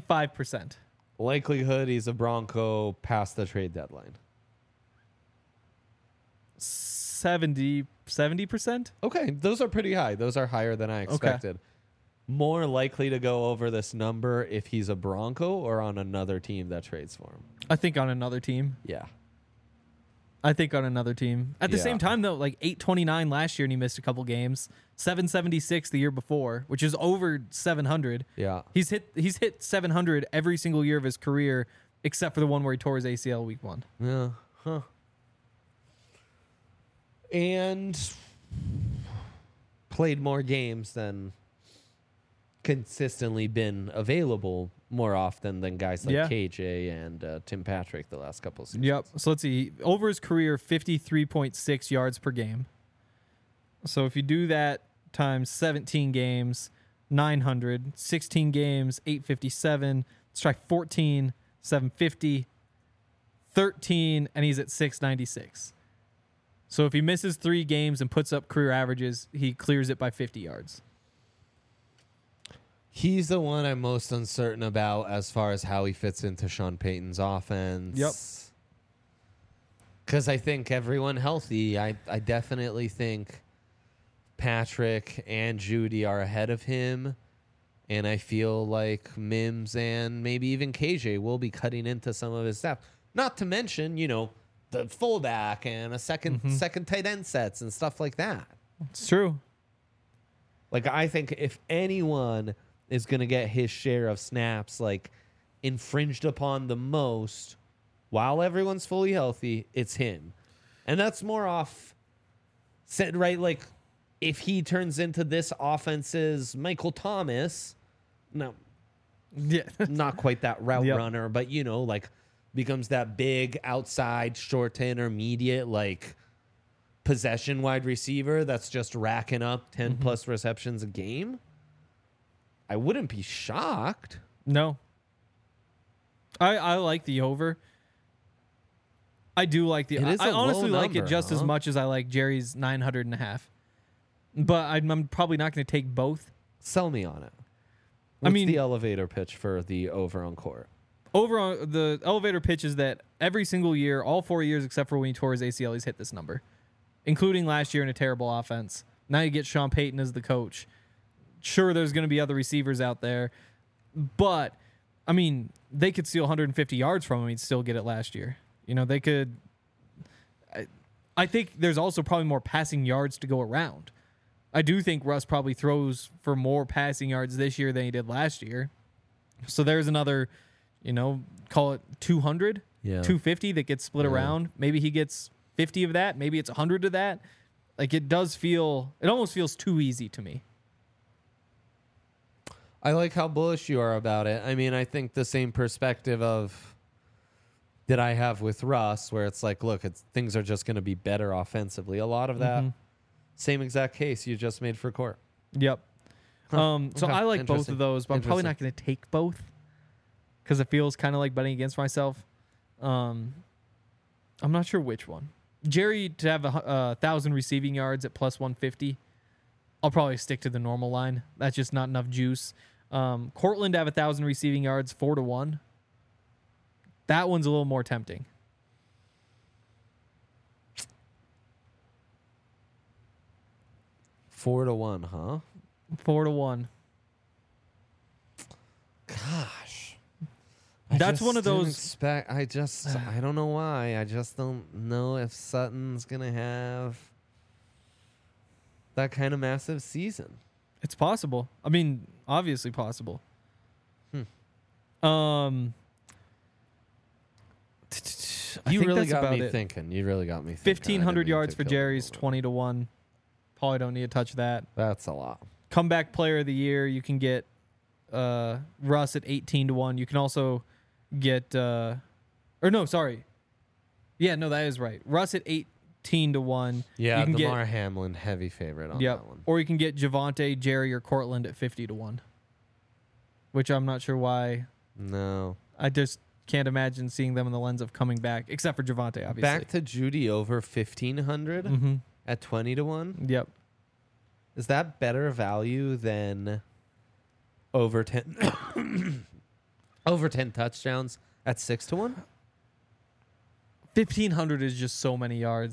95%. likelihood he's a Bronco past the trade deadline. 70%. Okay, those are pretty high. Those are higher than I expected. More likely to go over this number if he's a Bronco or on another team that trades for him. I think on another team. Yeah. At the same time, though, like 829 last year, and he missed a couple games. 776 the year before, which is over 700. Yeah. He's hit 700 every single year of his career, except for the one where he tore his ACL week 1. Yeah. Huh. And played more games than consistently been available more often than guys like Yeah. KJ and Tim Patrick the last couple of seasons. Yep. So let's see. Over his career, 53.6 yards per game. So if you do that times 17 games, 900, 16 games, 857, strike 14, 750, 13, and he's at 696. So if he misses 3 games and puts up career averages, he clears it by 50 yards. He's the one I'm most uncertain about as far as how he fits into Sean Payton's offense. Yep. Because I think everyone healthy, I definitely think Patrick and Judy are ahead of him. And I feel like Mims and maybe even KJ will be cutting into some of his stuff. Not to mention, the fullback and a second tight end sets and stuff like that. It's true. Like, I think if anyone is going to get his share of snaps, like, infringed upon the most while everyone's fully healthy, it's him. And that's more off, right? Like, if he turns into this offense's Michael Thomas, no, Yeah. not quite that route Yep. runner, but, like, becomes that big outside, short to intermediate, like, possession wide receiver that's just racking up 10 plus receptions a game. I wouldn't be shocked. No. I like the over. I do like the. It is I a low honestly like it number, just as huh? much as I like Jerry's 900.5. But I'm probably not going to take both. Sell me on it. What's mean- the elevator pitch for the over on court? Over on the elevator pitch is that every single year, all 4 years except for when he tore his ACL, he's hit this number, including last year in a terrible offense. Now you get Sean Payton as the coach. Sure, there's going to be other receivers out there, but I mean, they could steal 150 yards from him. He'd still get it last year. They could. I think there's also probably more passing yards to go around. I do think Russ probably throws for more passing yards this year than he did last year. So there's another, call it 200, Yeah. 250 that gets split around. Maybe he gets 50 of that. Maybe it's 100 of that. Like, it almost feels too easy to me. I like how bullish you are about it. I mean, I think the same perspective of that I have with Russ, where it's like, look, things are just going to be better offensively. A lot of that same exact case you just made for court. Yep. So Okay. I like both Interesting. of those, but I'm probably not Interesting. going to take both because it feels kind of like betting against myself. I'm not sure which one. Jerry to have 1,000 receiving yards at plus 150. I'll probably stick to the normal line. That's just not enough juice. Cortland to have 1,000 receiving yards 4-1. That one's a little more tempting. Four to one, huh? 4-1. Gosh. That's one of those- I don't know why. I just don't know if Sutton's going to have that kind of massive season. It's possible. I mean, obviously possible. I You think really that's got about me it. thinking. You really got me thinking. 1,500 yards for for Jerry's, 20-1. Probably don't need to touch that. That's a lot. Comeback player of the year, you can get Russ at 18-1. You can also get Yeah, no, that is right. Russ at 18-1. Yeah, you can DeMar Hamlin, heavy favorite on Yep. that one. Or you can get Javonte, Jerry, or Cortland at 50-1. Which I'm not sure why. No. I just can't imagine seeing them in the lens of coming back, except for Javonte, obviously. Back to Judy over 1,500 Mm-hmm. at 20-1. Yep. Is that better value than over 10 over 10 touchdowns at 6-1? 1,500 is just so many yards.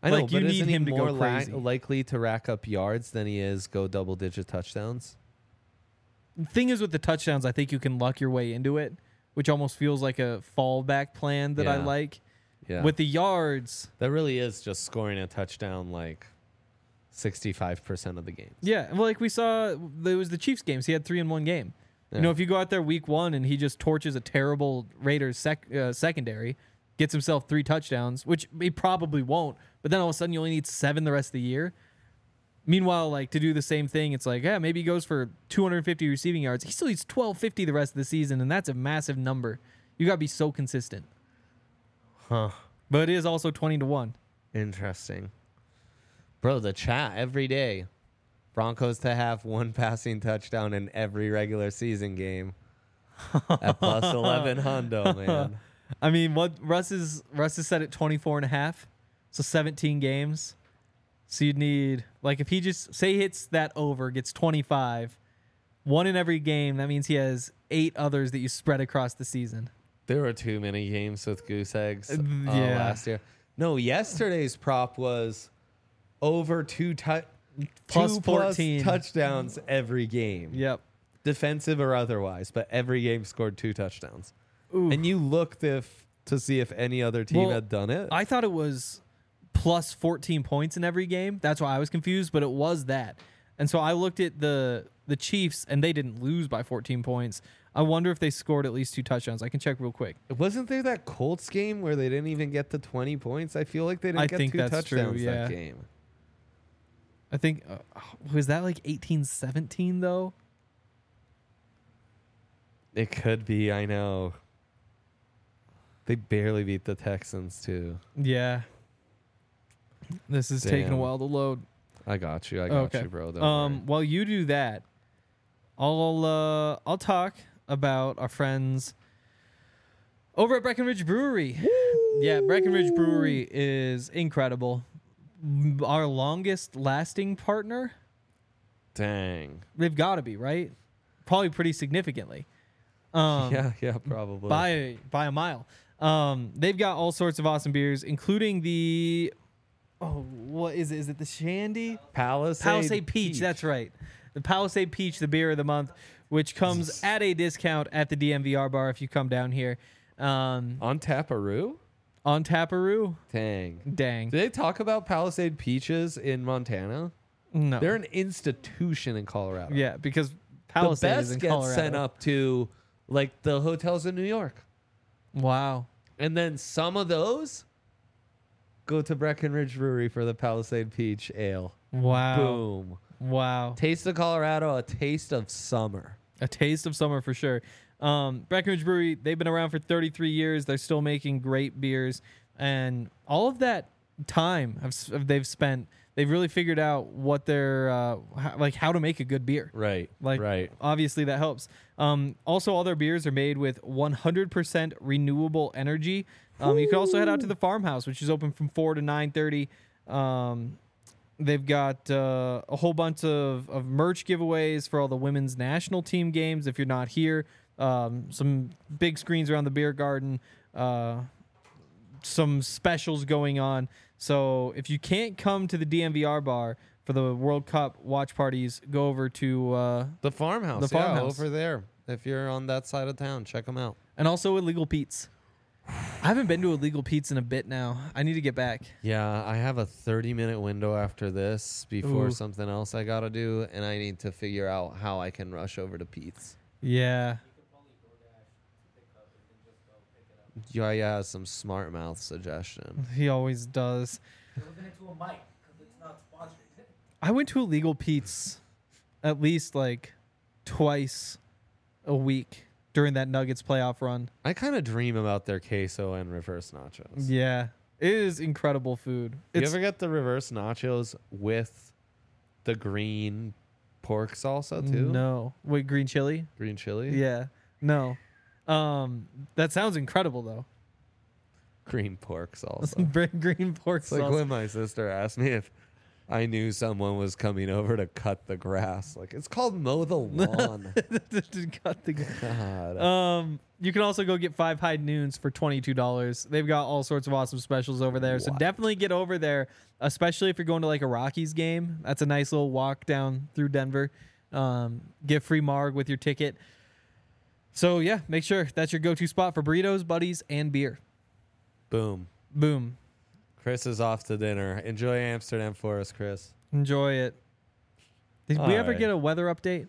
I know, Like, you but need isn't he him to go more crazy. likely to rack up yards than he is go double-digit touchdowns? The thing is with the touchdowns, I think you can luck your way into it, which almost feels like a fallback plan that I Yeah. like. Yeah. With the yards, That really is just scoring a touchdown like 65% of the games. yeah, well, like we saw, there was the Chiefs games. He had 3 in one game. Yeah. You know, if you go out there week 1 and he just torches a terrible Raiders secondary, gets himself 3 touchdowns, which he probably won't, but then all of a sudden you only need 7 the rest of the year. Meanwhile, like to do the same thing, it's like, yeah, maybe he goes for 250 receiving yards. He still needs 1250 the rest of the season, and that's a massive number. You got to be so consistent. Huh. But it is also 20-1. Interesting. Bro, the chat every day. Broncos to have 1 passing touchdown in every regular season game. At plus 11 hundo, man. I mean, what Russ is set at 24.5, so 17 games. So you'd need, like, if he just say he hits that over, gets 25, 1 in every game, that means he has 8 others that you spread across the season. There were too many games with goose eggs Yeah. last year. No, yesterday's prop was over Plus 2+ 14. touchdowns every game. Yep. Defensive or otherwise, but every game scored 2 touchdowns. Ooh. And you looked to see if any other team Well, had done it. I thought it was plus 14 points in every game. That's why I was confused, but it was that. And so I looked at the Chiefs, and they didn't lose by 14 points. I wonder if they scored at least 2 touchdowns. I can check real quick. Wasn't there that Colts game where they didn't even get to 20 points? I feel like they didn't I get think 2 that's true, touchdowns yeah. that game. I think, was that like 18-17 though? It could be, I know. They barely beat the Texans, too. Yeah. This is taking a Damn. while to load. I got you, Okay. bro. Don't worry. While you do that, I'll talk about our friends over at Breckenridge Brewery. Yeah, Breckenridge Brewery is incredible. Our longest lasting partner. Dang. They've got to be, right? Probably pretty significantly. Yeah, probably. By a mile. They've got all sorts of awesome beers, including the what is it? Is it the Shandy? Palisade Peach. That's right. The Palisade Peach, the beer of the month, which comes at a discount at the DMVR bar if you come down here. On Taparoo? On Taparoo. Dang. Dang. Did they talk about Palisade Peaches in Montana? No. They're an institution in Colorado. Yeah, because The Palisade is best in gets Colorado. sent up to like the hotels in New York. Wow. And then some of those go to Breckenridge Brewery for the Palisade Peach Ale. Wow. Boom. Wow. Taste of Colorado, a taste of summer. A taste of summer for sure. Breckenridge Brewery, they've been around for 33 years. They're still making great beers. And all of that time they've spent, they've really figured out what they're, how to make a good beer. Right. Right. Obviously, that helps. Also, all their beers are made with 100% renewable energy. You can also head out to the farmhouse, which is open from 4 to 9:30. They've got a whole bunch of merch giveaways for all the women's national team games. If you're not here, some big screens around the beer garden, some specials going on. So if you can't come to the DMVR bar for the World Cup watch parties, go over to The farmhouse. The farmhouse. over there. If you're on that side of town, check them out. and also Illegal Pete's. I haven't been to Illegal Pete's in a bit now. I need to get back. Yeah, I have a 30-minute window after this before Ooh. something else I got to do, and I need to figure out how I can rush over to Pete's. Yeah. Yeah, some smart mouth suggestion. He always does. You're looking into a mic because it's not sponsored. I went to Illegal Pete's at least like twice a week during that Nuggets playoff run. I kind of dream about their queso and reverse nachos. Yeah. It is incredible food. You It's ever get the reverse nachos with the green pork salsa too? No. Wait, green chili? Green chili? Yeah. No. That sounds incredible though. Green pork salsa. Green pork It's like sauce. when my sister asked me if I knew someone was coming over to cut the grass. Like, it's called mow the lawn. God. You can also go get 5 high noons for $22. They've got all sorts of awesome specials over there. So What? definitely get over there, especially if you're going to like a Rockies game. That's a nice little walk down through Denver. Get free marg with your ticket. So yeah, make sure that's your go-to spot for burritos, buddies, and beer. Boom. Boom. Chris is off to dinner. Enjoy Amsterdam for us, Chris. Enjoy it. Did we ever Alright. get a weather update?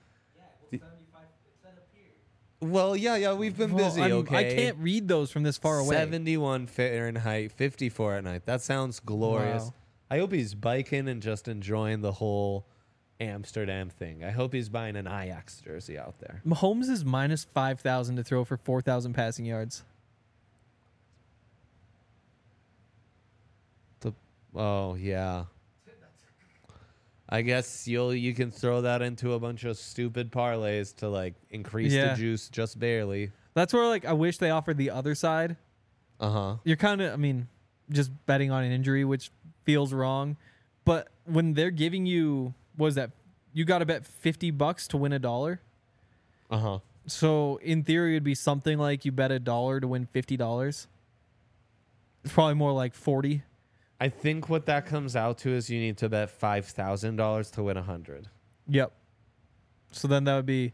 Well, yeah, we've been Well, busy, I okay? can't read those from this far away. 71 Fahrenheit, 54 at night. That sounds glorious. Wow. I hope he's biking and just enjoying the whole Amsterdam thing. I hope he's buying an Ajax jersey out there. Mahomes is minus 5,000 to throw for 4,000 passing yards. Oh, yeah. I guess you can throw that into a bunch of stupid parlays to like increase Yeah. the juice just barely. That's where like I wish they offered the other side. Uh-huh. You're kind of, I mean, just betting on an injury, which feels wrong. But when they're giving you, what is that? You got to bet $50 to win $1. Uh-huh. So in theory, it'd be something like you bet $1 to win $50. It's probably more like 40. I think what that comes out to is you need to bet $5,000 to win 100. Yep. So then that would be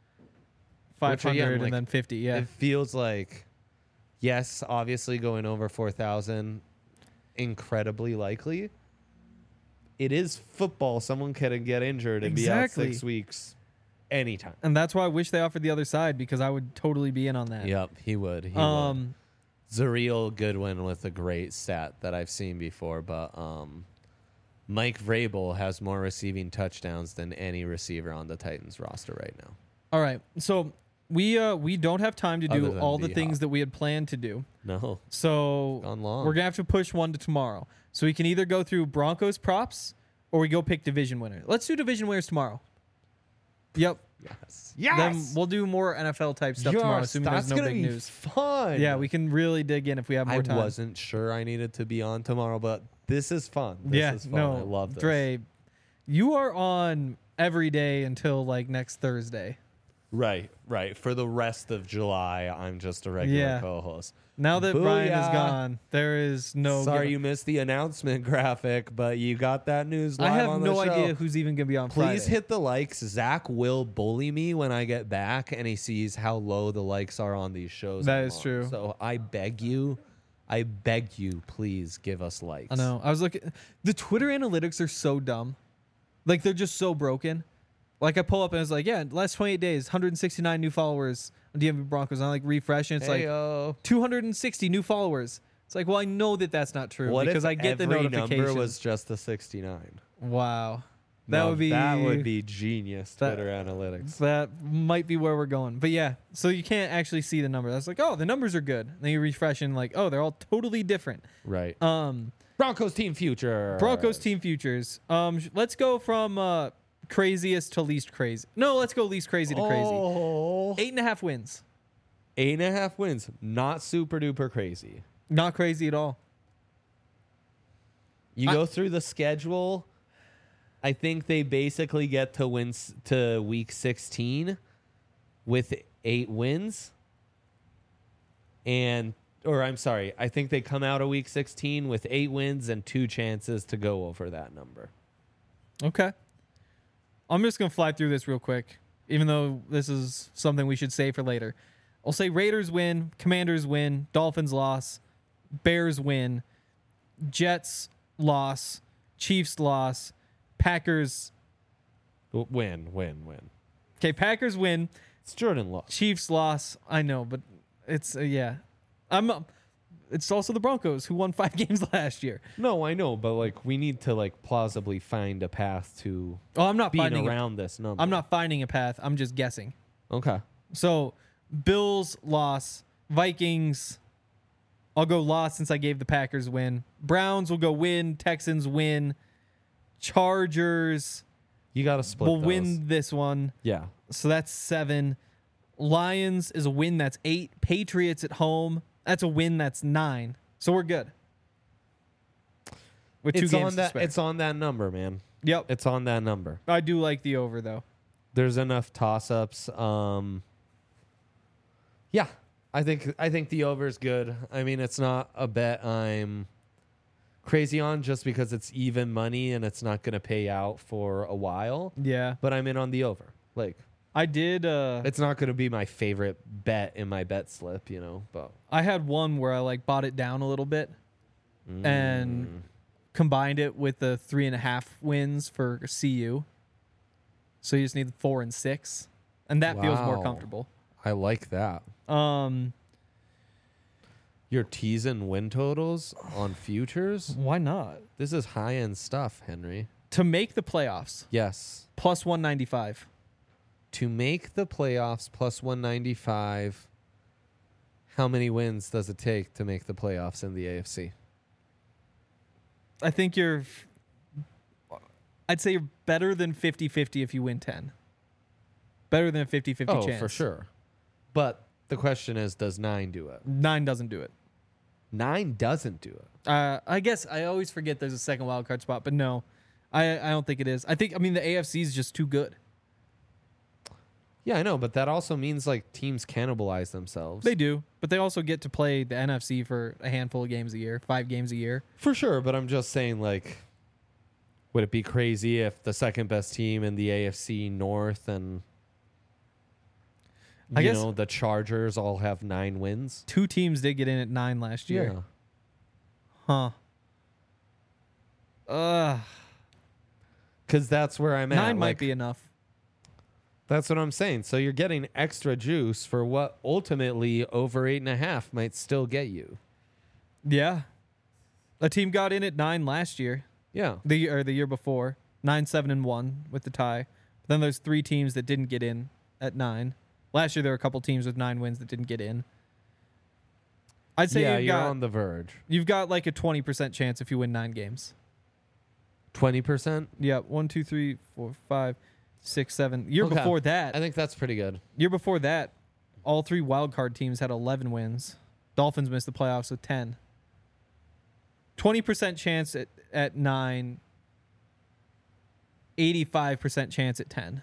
500 again, like, and then 50. Yeah. It feels like, yes, obviously going over 4,000, incredibly likely. It is football. Someone can get injured and be out Exactly. 6 weeks anytime. And that's why I wish they offered the other side, because I would totally be in on that. Yep, he would. He would. Zariel Goodwin with a great stat that I've seen before, but Mike Vrabel has more receiving touchdowns than any receiver on the Titans roster right now. All right. So we don't have time to Other do than all the D-Hop. things that we had planned to do. No. So Gone long. we're going to have to push one to tomorrow. So we can either go through Broncos props or we go pick division winner. Let's do division winners tomorrow. Yep. Yes. Then we'll do more NFL type stuff tomorrow, assuming there's that's no gonna big be news. fun. Yeah, we can really dig in if we have more I time. wasn't sure I needed to be on tomorrow, but this is fun. This is fun. no, I love this. Dre, you are on every day until like next Thursday. Right. For the rest of July, I'm just a regular Yeah. co-host. Now that Brian is Booyah. gone, there is no. Sorry you missed the announcement graphic, but you got that news live I have on the no show. idea who's even going to be on Friday. Please hit the likes. Zach will bully me when I get back and he sees how low the likes are on these shows. That I'm is on. true. So I beg you, please give us likes. I know. I was looking. The Twitter analytics are so dumb. Like, they're just so broken. Like, I pull up and it's like, yeah, last 28 days, 169 new followers on DMV Broncos. And I like refresh and it's like Heyo. 260 new followers. It's like, well, I know that that's not true What because if I get the every notification. number was just a 69? Wow. That would be genius. that- Twitter analytics. That might be where we're going. But yeah, so you can't actually see the number. That's like, oh, the numbers are good. Then you refresh and like, oh, they're all totally different. Right. Um, Broncos team future. Broncos team futures. Let's go from craziest to least crazy. No, let's go least crazy to crazy. Oh. 8.5 wins. 8.5 wins. Not super duper crazy. Not crazy at all. You go through the schedule. I think they basically get to to week 16 with 8 wins. I think they come out of week 16 with 8 wins and 2 chances to go over that number. Okay. I'm just going to fly through this real quick, even though this is something we should say for later. I'll say Raiders win, Commanders win, Dolphins loss, Bears win, Jets loss, Chiefs loss, Packers. Win. Okay, Packers win, It's Jordan Love. Chiefs loss. I know, but it's yeah. It's also the Broncos who won 5 games last year. No, I know, but like we need to like plausibly find a path to Oh, I'm not being finding around this number. I'm not finding a path. I'm just guessing. Okay. So, Bills loss, Vikings. I'll go loss since I gave the Packers win. Browns will go win. Texans win. Chargers You got to split will those. win this one. Yeah. So that's 7. Lions is a win. That's 8. Patriots at home. That's a win. That's 9. So we're good. with 2 It's games on to that. spare. It's on that number, man. Yep. It's on that number. I do like the over though. There's enough toss-ups. Yeah, I think the over is good. I mean, it's not a bet I'm crazy on just because it's even money and it's not going to pay out for a while. Yeah. But I'm in on the over. Like, I did it's not going to be my favorite bet in my bet slip, but I had one where I like bought it down a little bit and combined it with the 3.5 wins for CU. So you just need 4 and 6, and that feels more Wow. comfortable. I like that. You're teasing win totals on futures? Why not? This is high-end stuff, Henry. To make the playoffs, Yes. plus 195. To make the playoffs plus 195, how many wins does it take to make the playoffs in the AFC? I think I'd say you're better than 50-50 if you win 10. Better than a 50-50 Oh, chance. for sure. But the question is, does 9 do it? 9 doesn't do it. 9 doesn't do it. I guess I always forget there's a second wild card spot, but no, I don't think it is. I mean, the AFC is just too good. Yeah, I know, but that also means like teams cannibalize themselves. They do, but they also get to play the NFC for a handful of games a year, 5 games a year. For sure, but I'm just saying, like, would it be crazy if the second best team in the AFC North and I guess- the Chargers all have 9 wins? 2 teams did get in at 9 last year. Huh. Because that's where I'm at. 9 might like, be enough. That's what I'm saying. So you're getting extra juice for what ultimately over 8.5 might still get you. Yeah. A team got in at 9 last year, Yeah. the year before, 9-7-1 with the tie. But then there's 3 teams that didn't get in at 9. Last year there were a couple teams with 9 wins that didn't get in. I'd say Yeah, you're on the verge. you've got like a 20% chance if you win 9 games. 20%? Yeah, 1, 2, 3, 4, 5, 6, 7. Year Okay. before that, I think that's pretty good. all 3 wild card teams had 11 wins. Dolphins missed the playoffs with 10. 20% chance at 9. 85% chance at 10.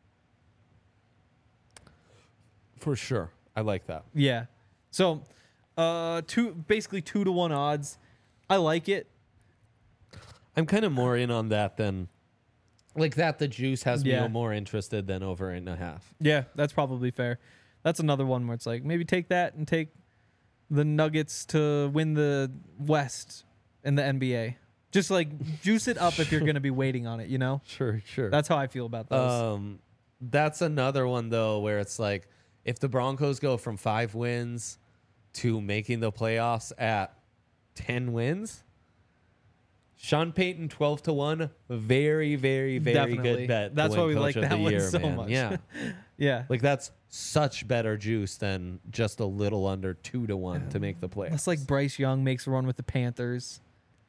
For sure. I like that. Yeah. So, basically 2 to 1 odds. I like it. I'm kind of more in on that than like that. The juice has Yeah. me more interested than over 8.5. Yeah, that's probably fair. That's another one where it's like maybe take that and take the Nuggets to win the West in the NBA. Just like juice it up if you're going to be waiting on it, Sure. That's how I feel about those. That's another one though where it's like if the Broncos go from 5 wins to making the playoffs at 10 wins, Sean Payton 12 to 1, very, very, very Definitely. good bet. to That's win why we Coach like of that the one year, so man. much. Yeah, Yeah. like that's such better juice than just a little under 2 to 1 to make the playoffs. That's like Bryce Young makes a run with the Panthers.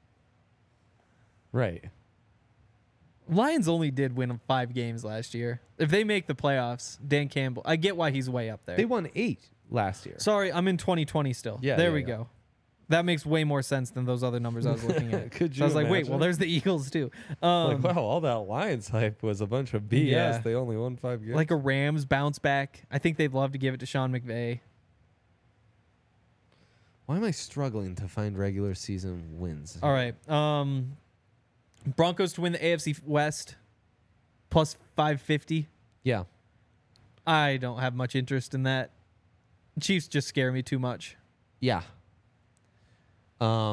right. Lions only did win 5 games last year. If they make the playoffs, Dan Campbell, I get why he's way up there. They won 8 last year. Sorry, I'm in 2020 still. Yeah, there yeah, we yeah. go. That makes way more sense than those other numbers I was looking at. Could So I was you like, wait, imagine? well, there's the Eagles too. Like, wow, all that Lions hype was a bunch of BS. Yeah. They only won 5 games. Like a Rams bounce back. I think they'd love to give it to Sean McVay. Why am I struggling to find regular season wins? All right. Broncos to win the AFC West plus 550. Yeah. I don't have much interest in that. Chiefs just scare me too much. Yeah. I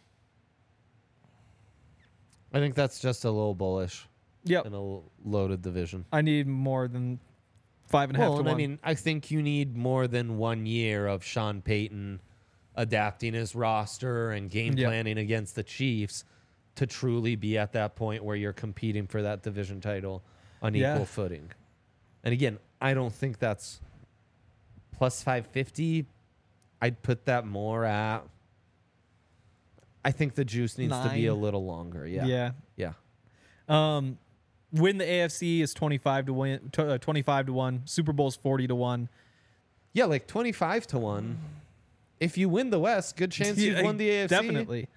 think that's just a little bullish Yep. in a loaded division. I need more than 5.5 Well, to and 1. I mean, I think you need more than 1 year of Sean Payton adapting his roster and game Yep. planning against the Chiefs to truly be at that point where you're competing for that division title on Yeah. equal footing. And again, I don't think that's plus 550. I'd put that more at. I think the juice needs to be a 9. little longer. Yeah. Yeah. Yeah. Win the AFC is 25 to win. 25 to 1. Super Bowl's 40 to 1. Yeah, like 25 to 1. If you win the West, good chance you've won the AFC. Definitely.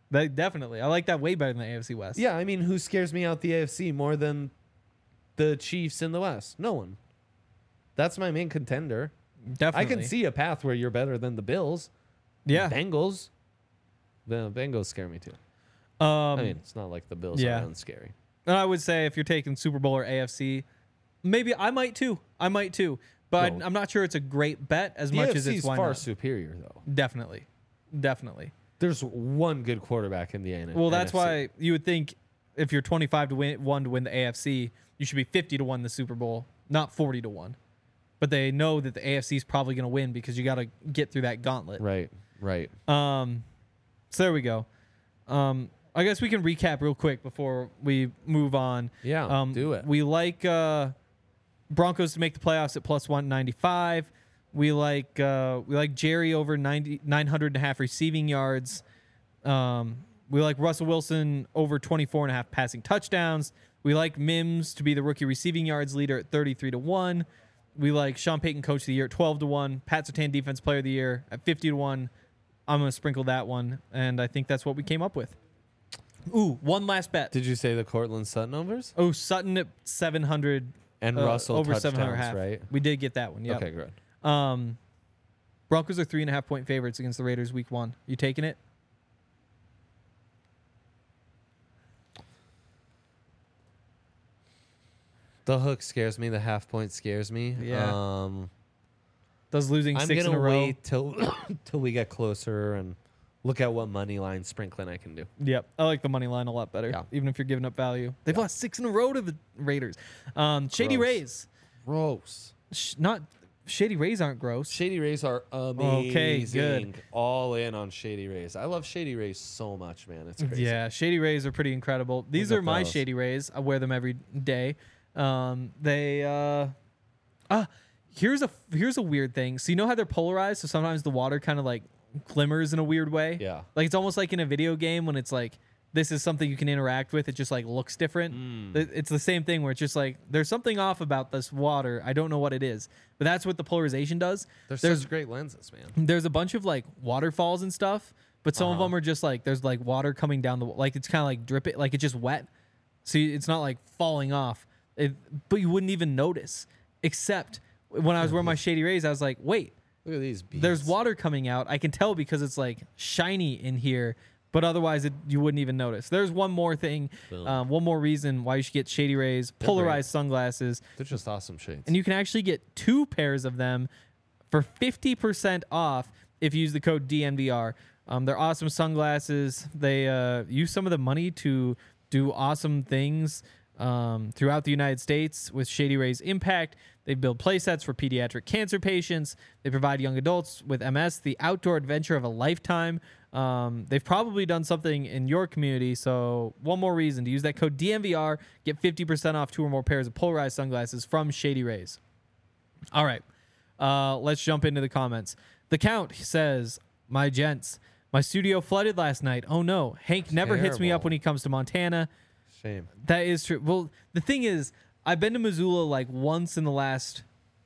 Definitely. I like that way better than the AFC West. Yeah, I mean, who scares me out the AFC more than the Chiefs in the West? No one. That's my main contender. Definitely. I can see a path where you're better than the Bills. Yeah. Bengals. The Bengals scare me too. I mean, it's not like the Bills yeah. are unscary. And I would say if you're taking Super Bowl or AFC, maybe I might too. But No. I'm not sure it's a great bet as The much AFC as it's is why far not. superior, though. Definitely. There's one good quarterback in the NFC. Well, that's why you would think if you're 25 to win the AFC, you should be 50 to 1 the Super Bowl, not 40 to 1. But they know that the AFC is probably going to win because you got to get through that gauntlet. Right. So there we go. I guess we can recap real quick before we move on. Yeah, do it. We like Broncos to make the playoffs at plus 195. We like Jerry over 900.5 receiving yards. We like Russell Wilson over 24.5 passing touchdowns. We like Mims to be the rookie receiving yards leader at 33 to 1. We like Sean Payton coach of the year at 12 to 1. Pat Surtain defense player of the year at 50 to 1. I'm going to sprinkle that one, and I think that's what we came up with. Ooh, one last bet. Did you say the Cortland Sutton overs? Oh, Sutton at 700 And Russell over touchdowns, 700.5. right? We did get that one. Yeah. Okay, good. Broncos are 3.5 point favorites against the Raiders week 1. You taking it? The hook scares me. The half point scares me. Yeah. Does losing I'm 6 in a gonna row? wait till we get closer and look at what money line sprinkling I can do. Yep. I like the money line a lot better, Yeah. even if you're giving up value. They've lost 6 in a row to the Raiders. Shady Gross. Rays. Gross. Not Shady Rays aren't gross. Shady Rays are amazing. Okay, good. All in on Shady Rays. I love Shady Rays so much, man. It's crazy. Yeah, Shady Rays are pretty incredible. These Look are at my those. Shady Rays. I wear them every day. Here's a weird thing. So you know how they're polarized? So sometimes the water kind of like glimmers in a weird way. Yeah. Like it's almost like in a video game when it's like this is something you can interact with. It just like looks different. It's the same thing where it's just like there's something off about this water. I don't know what it is, but that's what the polarization does. There's such great lenses, man. There's a bunch of like waterfalls and stuff, but some of them are just like there's like water coming down the like it's kind of like dripping, like it's just wet. So it's not like falling off, but you wouldn't even notice. Except when I was wearing my Shady Rays, I was like, wait, Look at these beasts. there's water coming out. I can tell because it's like shiny in here, but otherwise you wouldn't even notice. There's one more thing, Boom. one more reason why you should get Shady Rays polarized sunglasses. They're just awesome shades. And you can actually get 2 pairs of them for 50% off if you use the code DNVR. They're awesome sunglasses. They use some of the money to do awesome things throughout the United States with Shady Rays Impact. They build play sets for pediatric cancer patients. They provide young adults with MS the outdoor adventure of a lifetime. They've probably done something in your community. So one more reason to use that code DNVR, get 50% off 2 or more pairs of polarized sunglasses from Shady Rays. All right. Let's jump into the comments. The Count says, my gents, my studio flooded last night. Oh no. Hank never hits me up Terrible. when he comes to Montana. Shame. That is true. Well, the thing is, I've been to Missoula like once in the last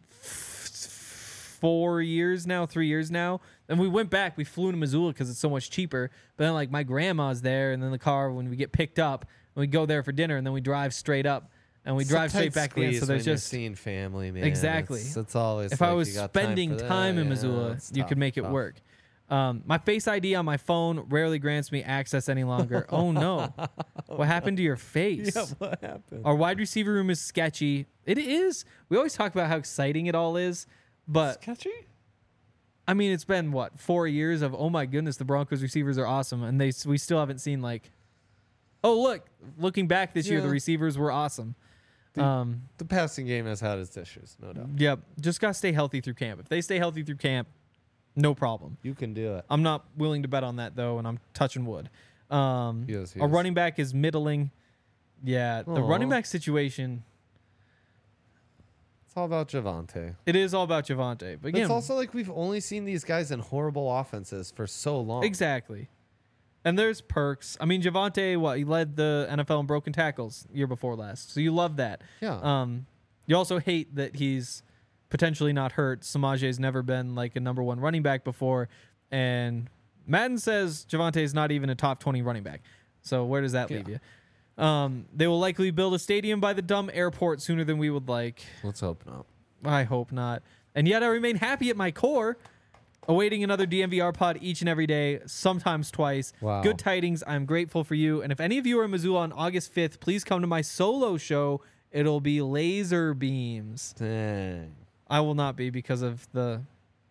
4 years now, 3 years now. And we went back. We flew to Missoula because it's so much cheaper. But then like my grandma's there, and then the car when we get picked up, and we go there for dinner, and then we drive straight up, and we drive straight back in. So there's just seeing family, man. Exactly. It's always. if like I was you got spending for time that. in Yeah, Missoula, it's you tough, could make it tough. work. My Face ID on my phone rarely grants me access any longer. Oh no. What happened to your face? Yeah, what happened? Our wide receiver room is sketchy. It is. We always talk about how exciting it all is, but Sketchy? I mean, it's been what 4 years of oh my goodness, the Broncos receivers are awesome, and we still haven't seen like, oh look, looking back this year, the Yeah. receivers were awesome. The passing game has had its issues, no doubt. Yep, just gotta stay healthy through camp. If they stay healthy through camp, no problem. You can do it. I'm not willing to bet on that though, and I'm touching wood. Yes, Our running back is middling. Yeah, the Aw. running back situation. It's all about Javante. It is all about Javante, but again, It's also like we've only seen these guys in horrible offenses for so long. exactly. And there's perks. I mean, Javante, he led the NFL in broken tackles year before last, so you love that. Yeah. You also hate that he's potentially not hurt. Samaje's never been like a number 1 running back before, and Madden says Javonte is not even a top 20 running back. So where does that leave you? They will likely build a stadium by the dumb airport sooner than we would like. Let's hope not. I hope not. And yet I remain happy at my core, awaiting another DMVR pod each and every day, sometimes twice. Wow. Good tidings. I'm grateful for you. And if any of you are in Missoula on August 5th, please come to my solo show. It'll be laser beams. Dang. I will not be because of the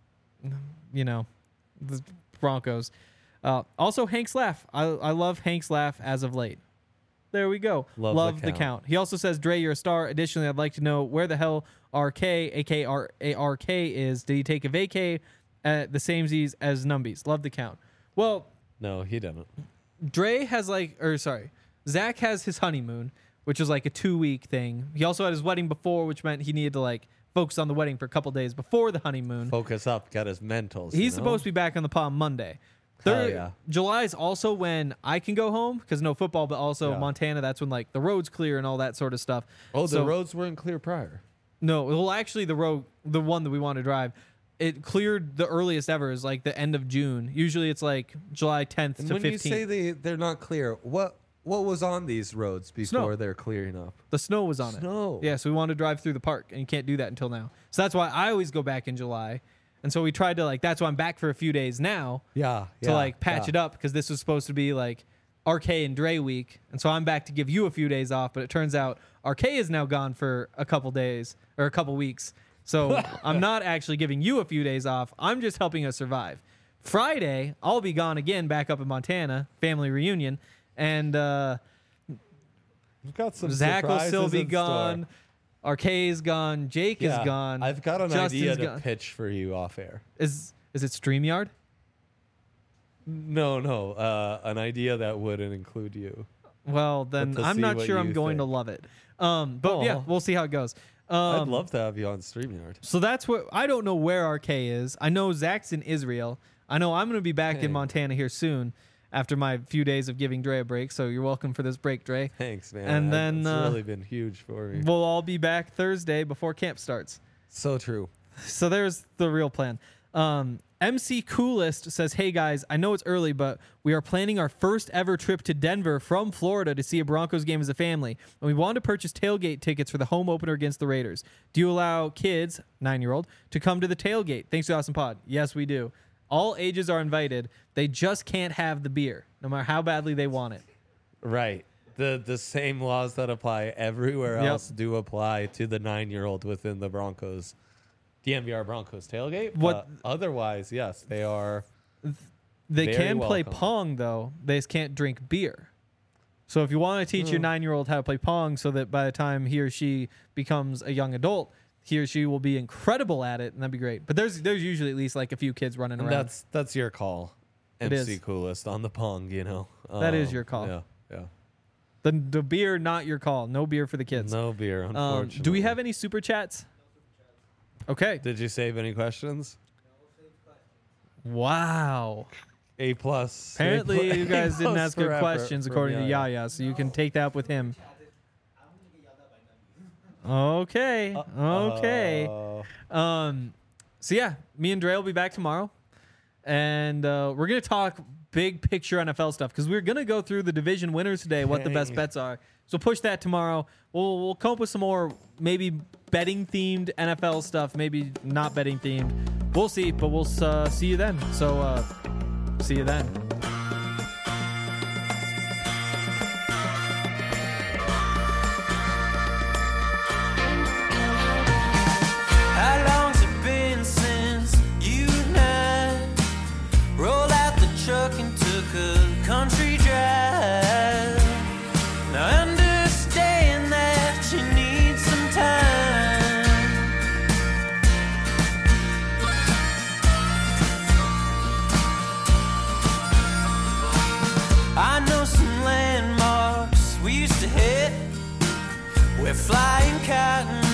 Broncos. Also, Hank's laugh. I love Hank's laugh as of late. There we go. Love the count. He also says, Dre, you're a star. Additionally, I'd like to know where the hell RK, aka RK, is. Did he take a vacay at the same Z's as Numbies? Love the count. Well, No, he didn't. Dre has Zach has his honeymoon, which is like a 2-week thing. He also had his wedding before, which meant he needed to focus on the wedding for a couple days before the honeymoon. Focus up, got his mentals. He's supposed to be back on the pod Monday. Hell yeah. July is also when I can go home because no football, but also Yeah. Montana. That's when the roads clear and all that sort of stuff. Oh, the So- roads weren't clear prior. No, well, actually, the one that we want to drive, it cleared the earliest ever is the end of June. Usually, it's July 10th And to when 15th. you say they're not clear, what was on these roads before Snow. they're clearing up? The snow was on Snow. it. Yeah, so we wanted to drive through the park, and you can't do that until now. So that's why I always go back in July. And so we tried to that's why I'm back for a few days now Yeah. to patch it up because this was supposed to be RK and Dre week. And so I'm back to give you a few days off, but it turns out RK is now gone for a couple days or a couple weeks. So I'm not actually giving you a few days off. I'm just helping us survive. Friday, I'll be gone again back up in Montana, family reunion. And We've got some Zach will surprises still be in gone. RK is gone. Jake store. is gone. I've got an Justin's idea to gone. pitch for you off air. Is it StreamYard? No, an idea that wouldn't include you. Well, then to I'm see not what sure I'm you going to think. love it. But yeah, Aw. we'll see how it goes. I'd love to have you on StreamYard. So that's what I don't know where RK is. I know Zach's in Israel. I know I'm going to be back in Dang. Montana here soon after my few days of giving Dre a break. So you're welcome for this break, Dre. Thanks, man. And then, it's uh, really been huge for me. We'll all be back Thursday before camp starts. So true. So there's the real plan. MC Coolest says, hey guys, I know it's early, but we are planning our first ever trip to Denver from Florida to see a Broncos game as a family. And we want to purchase tailgate tickets for the home opener against the Raiders. Do you allow kids, 9-year-old, to come to the tailgate? Thanks to Awesome Pod. Yes, we do. All ages are invited. They just can't have the beer, no matter how badly they want it. Right. The same laws that apply everywhere Yep. else do apply to the 9-year-old within the Broncos, DMVR Broncos tailgate. What- But otherwise, yes, they are. They Very can play welcome. Pong, though. They just can't drink beer. So if you want to teach your 9-year-old how to play Pong so that by the time he or she becomes a young adult, he or she will be incredible at it, and that'd be great. But there's usually at least a few kids running And around. that's your call. It MC is. Coolest on the Pong, you know. That is your call. Yeah. The beer, not your call. No beer for the kids. No beer, unfortunately. Do we have any super chats? Okay. Did you save any questions? Wow. A plus. Apparently, you guys didn't ask good forever questions from according to Yaya, so you can take that with him. Okay. Okay. So yeah, me and Dre will be back tomorrow, and we're gonna talk big picture NFL stuff because we're gonna go through the division winners today, what the best Dang. bets are. So push that tomorrow. We'll come up with some more maybe betting themed NFL stuff, maybe not betting themed. We'll see, but we'll see you then. So see you then. How long's it been since you and I rolled out the truck and took a country drive? Now I understand that you need some time. I know some landmarks we used to hit. We're flying cotton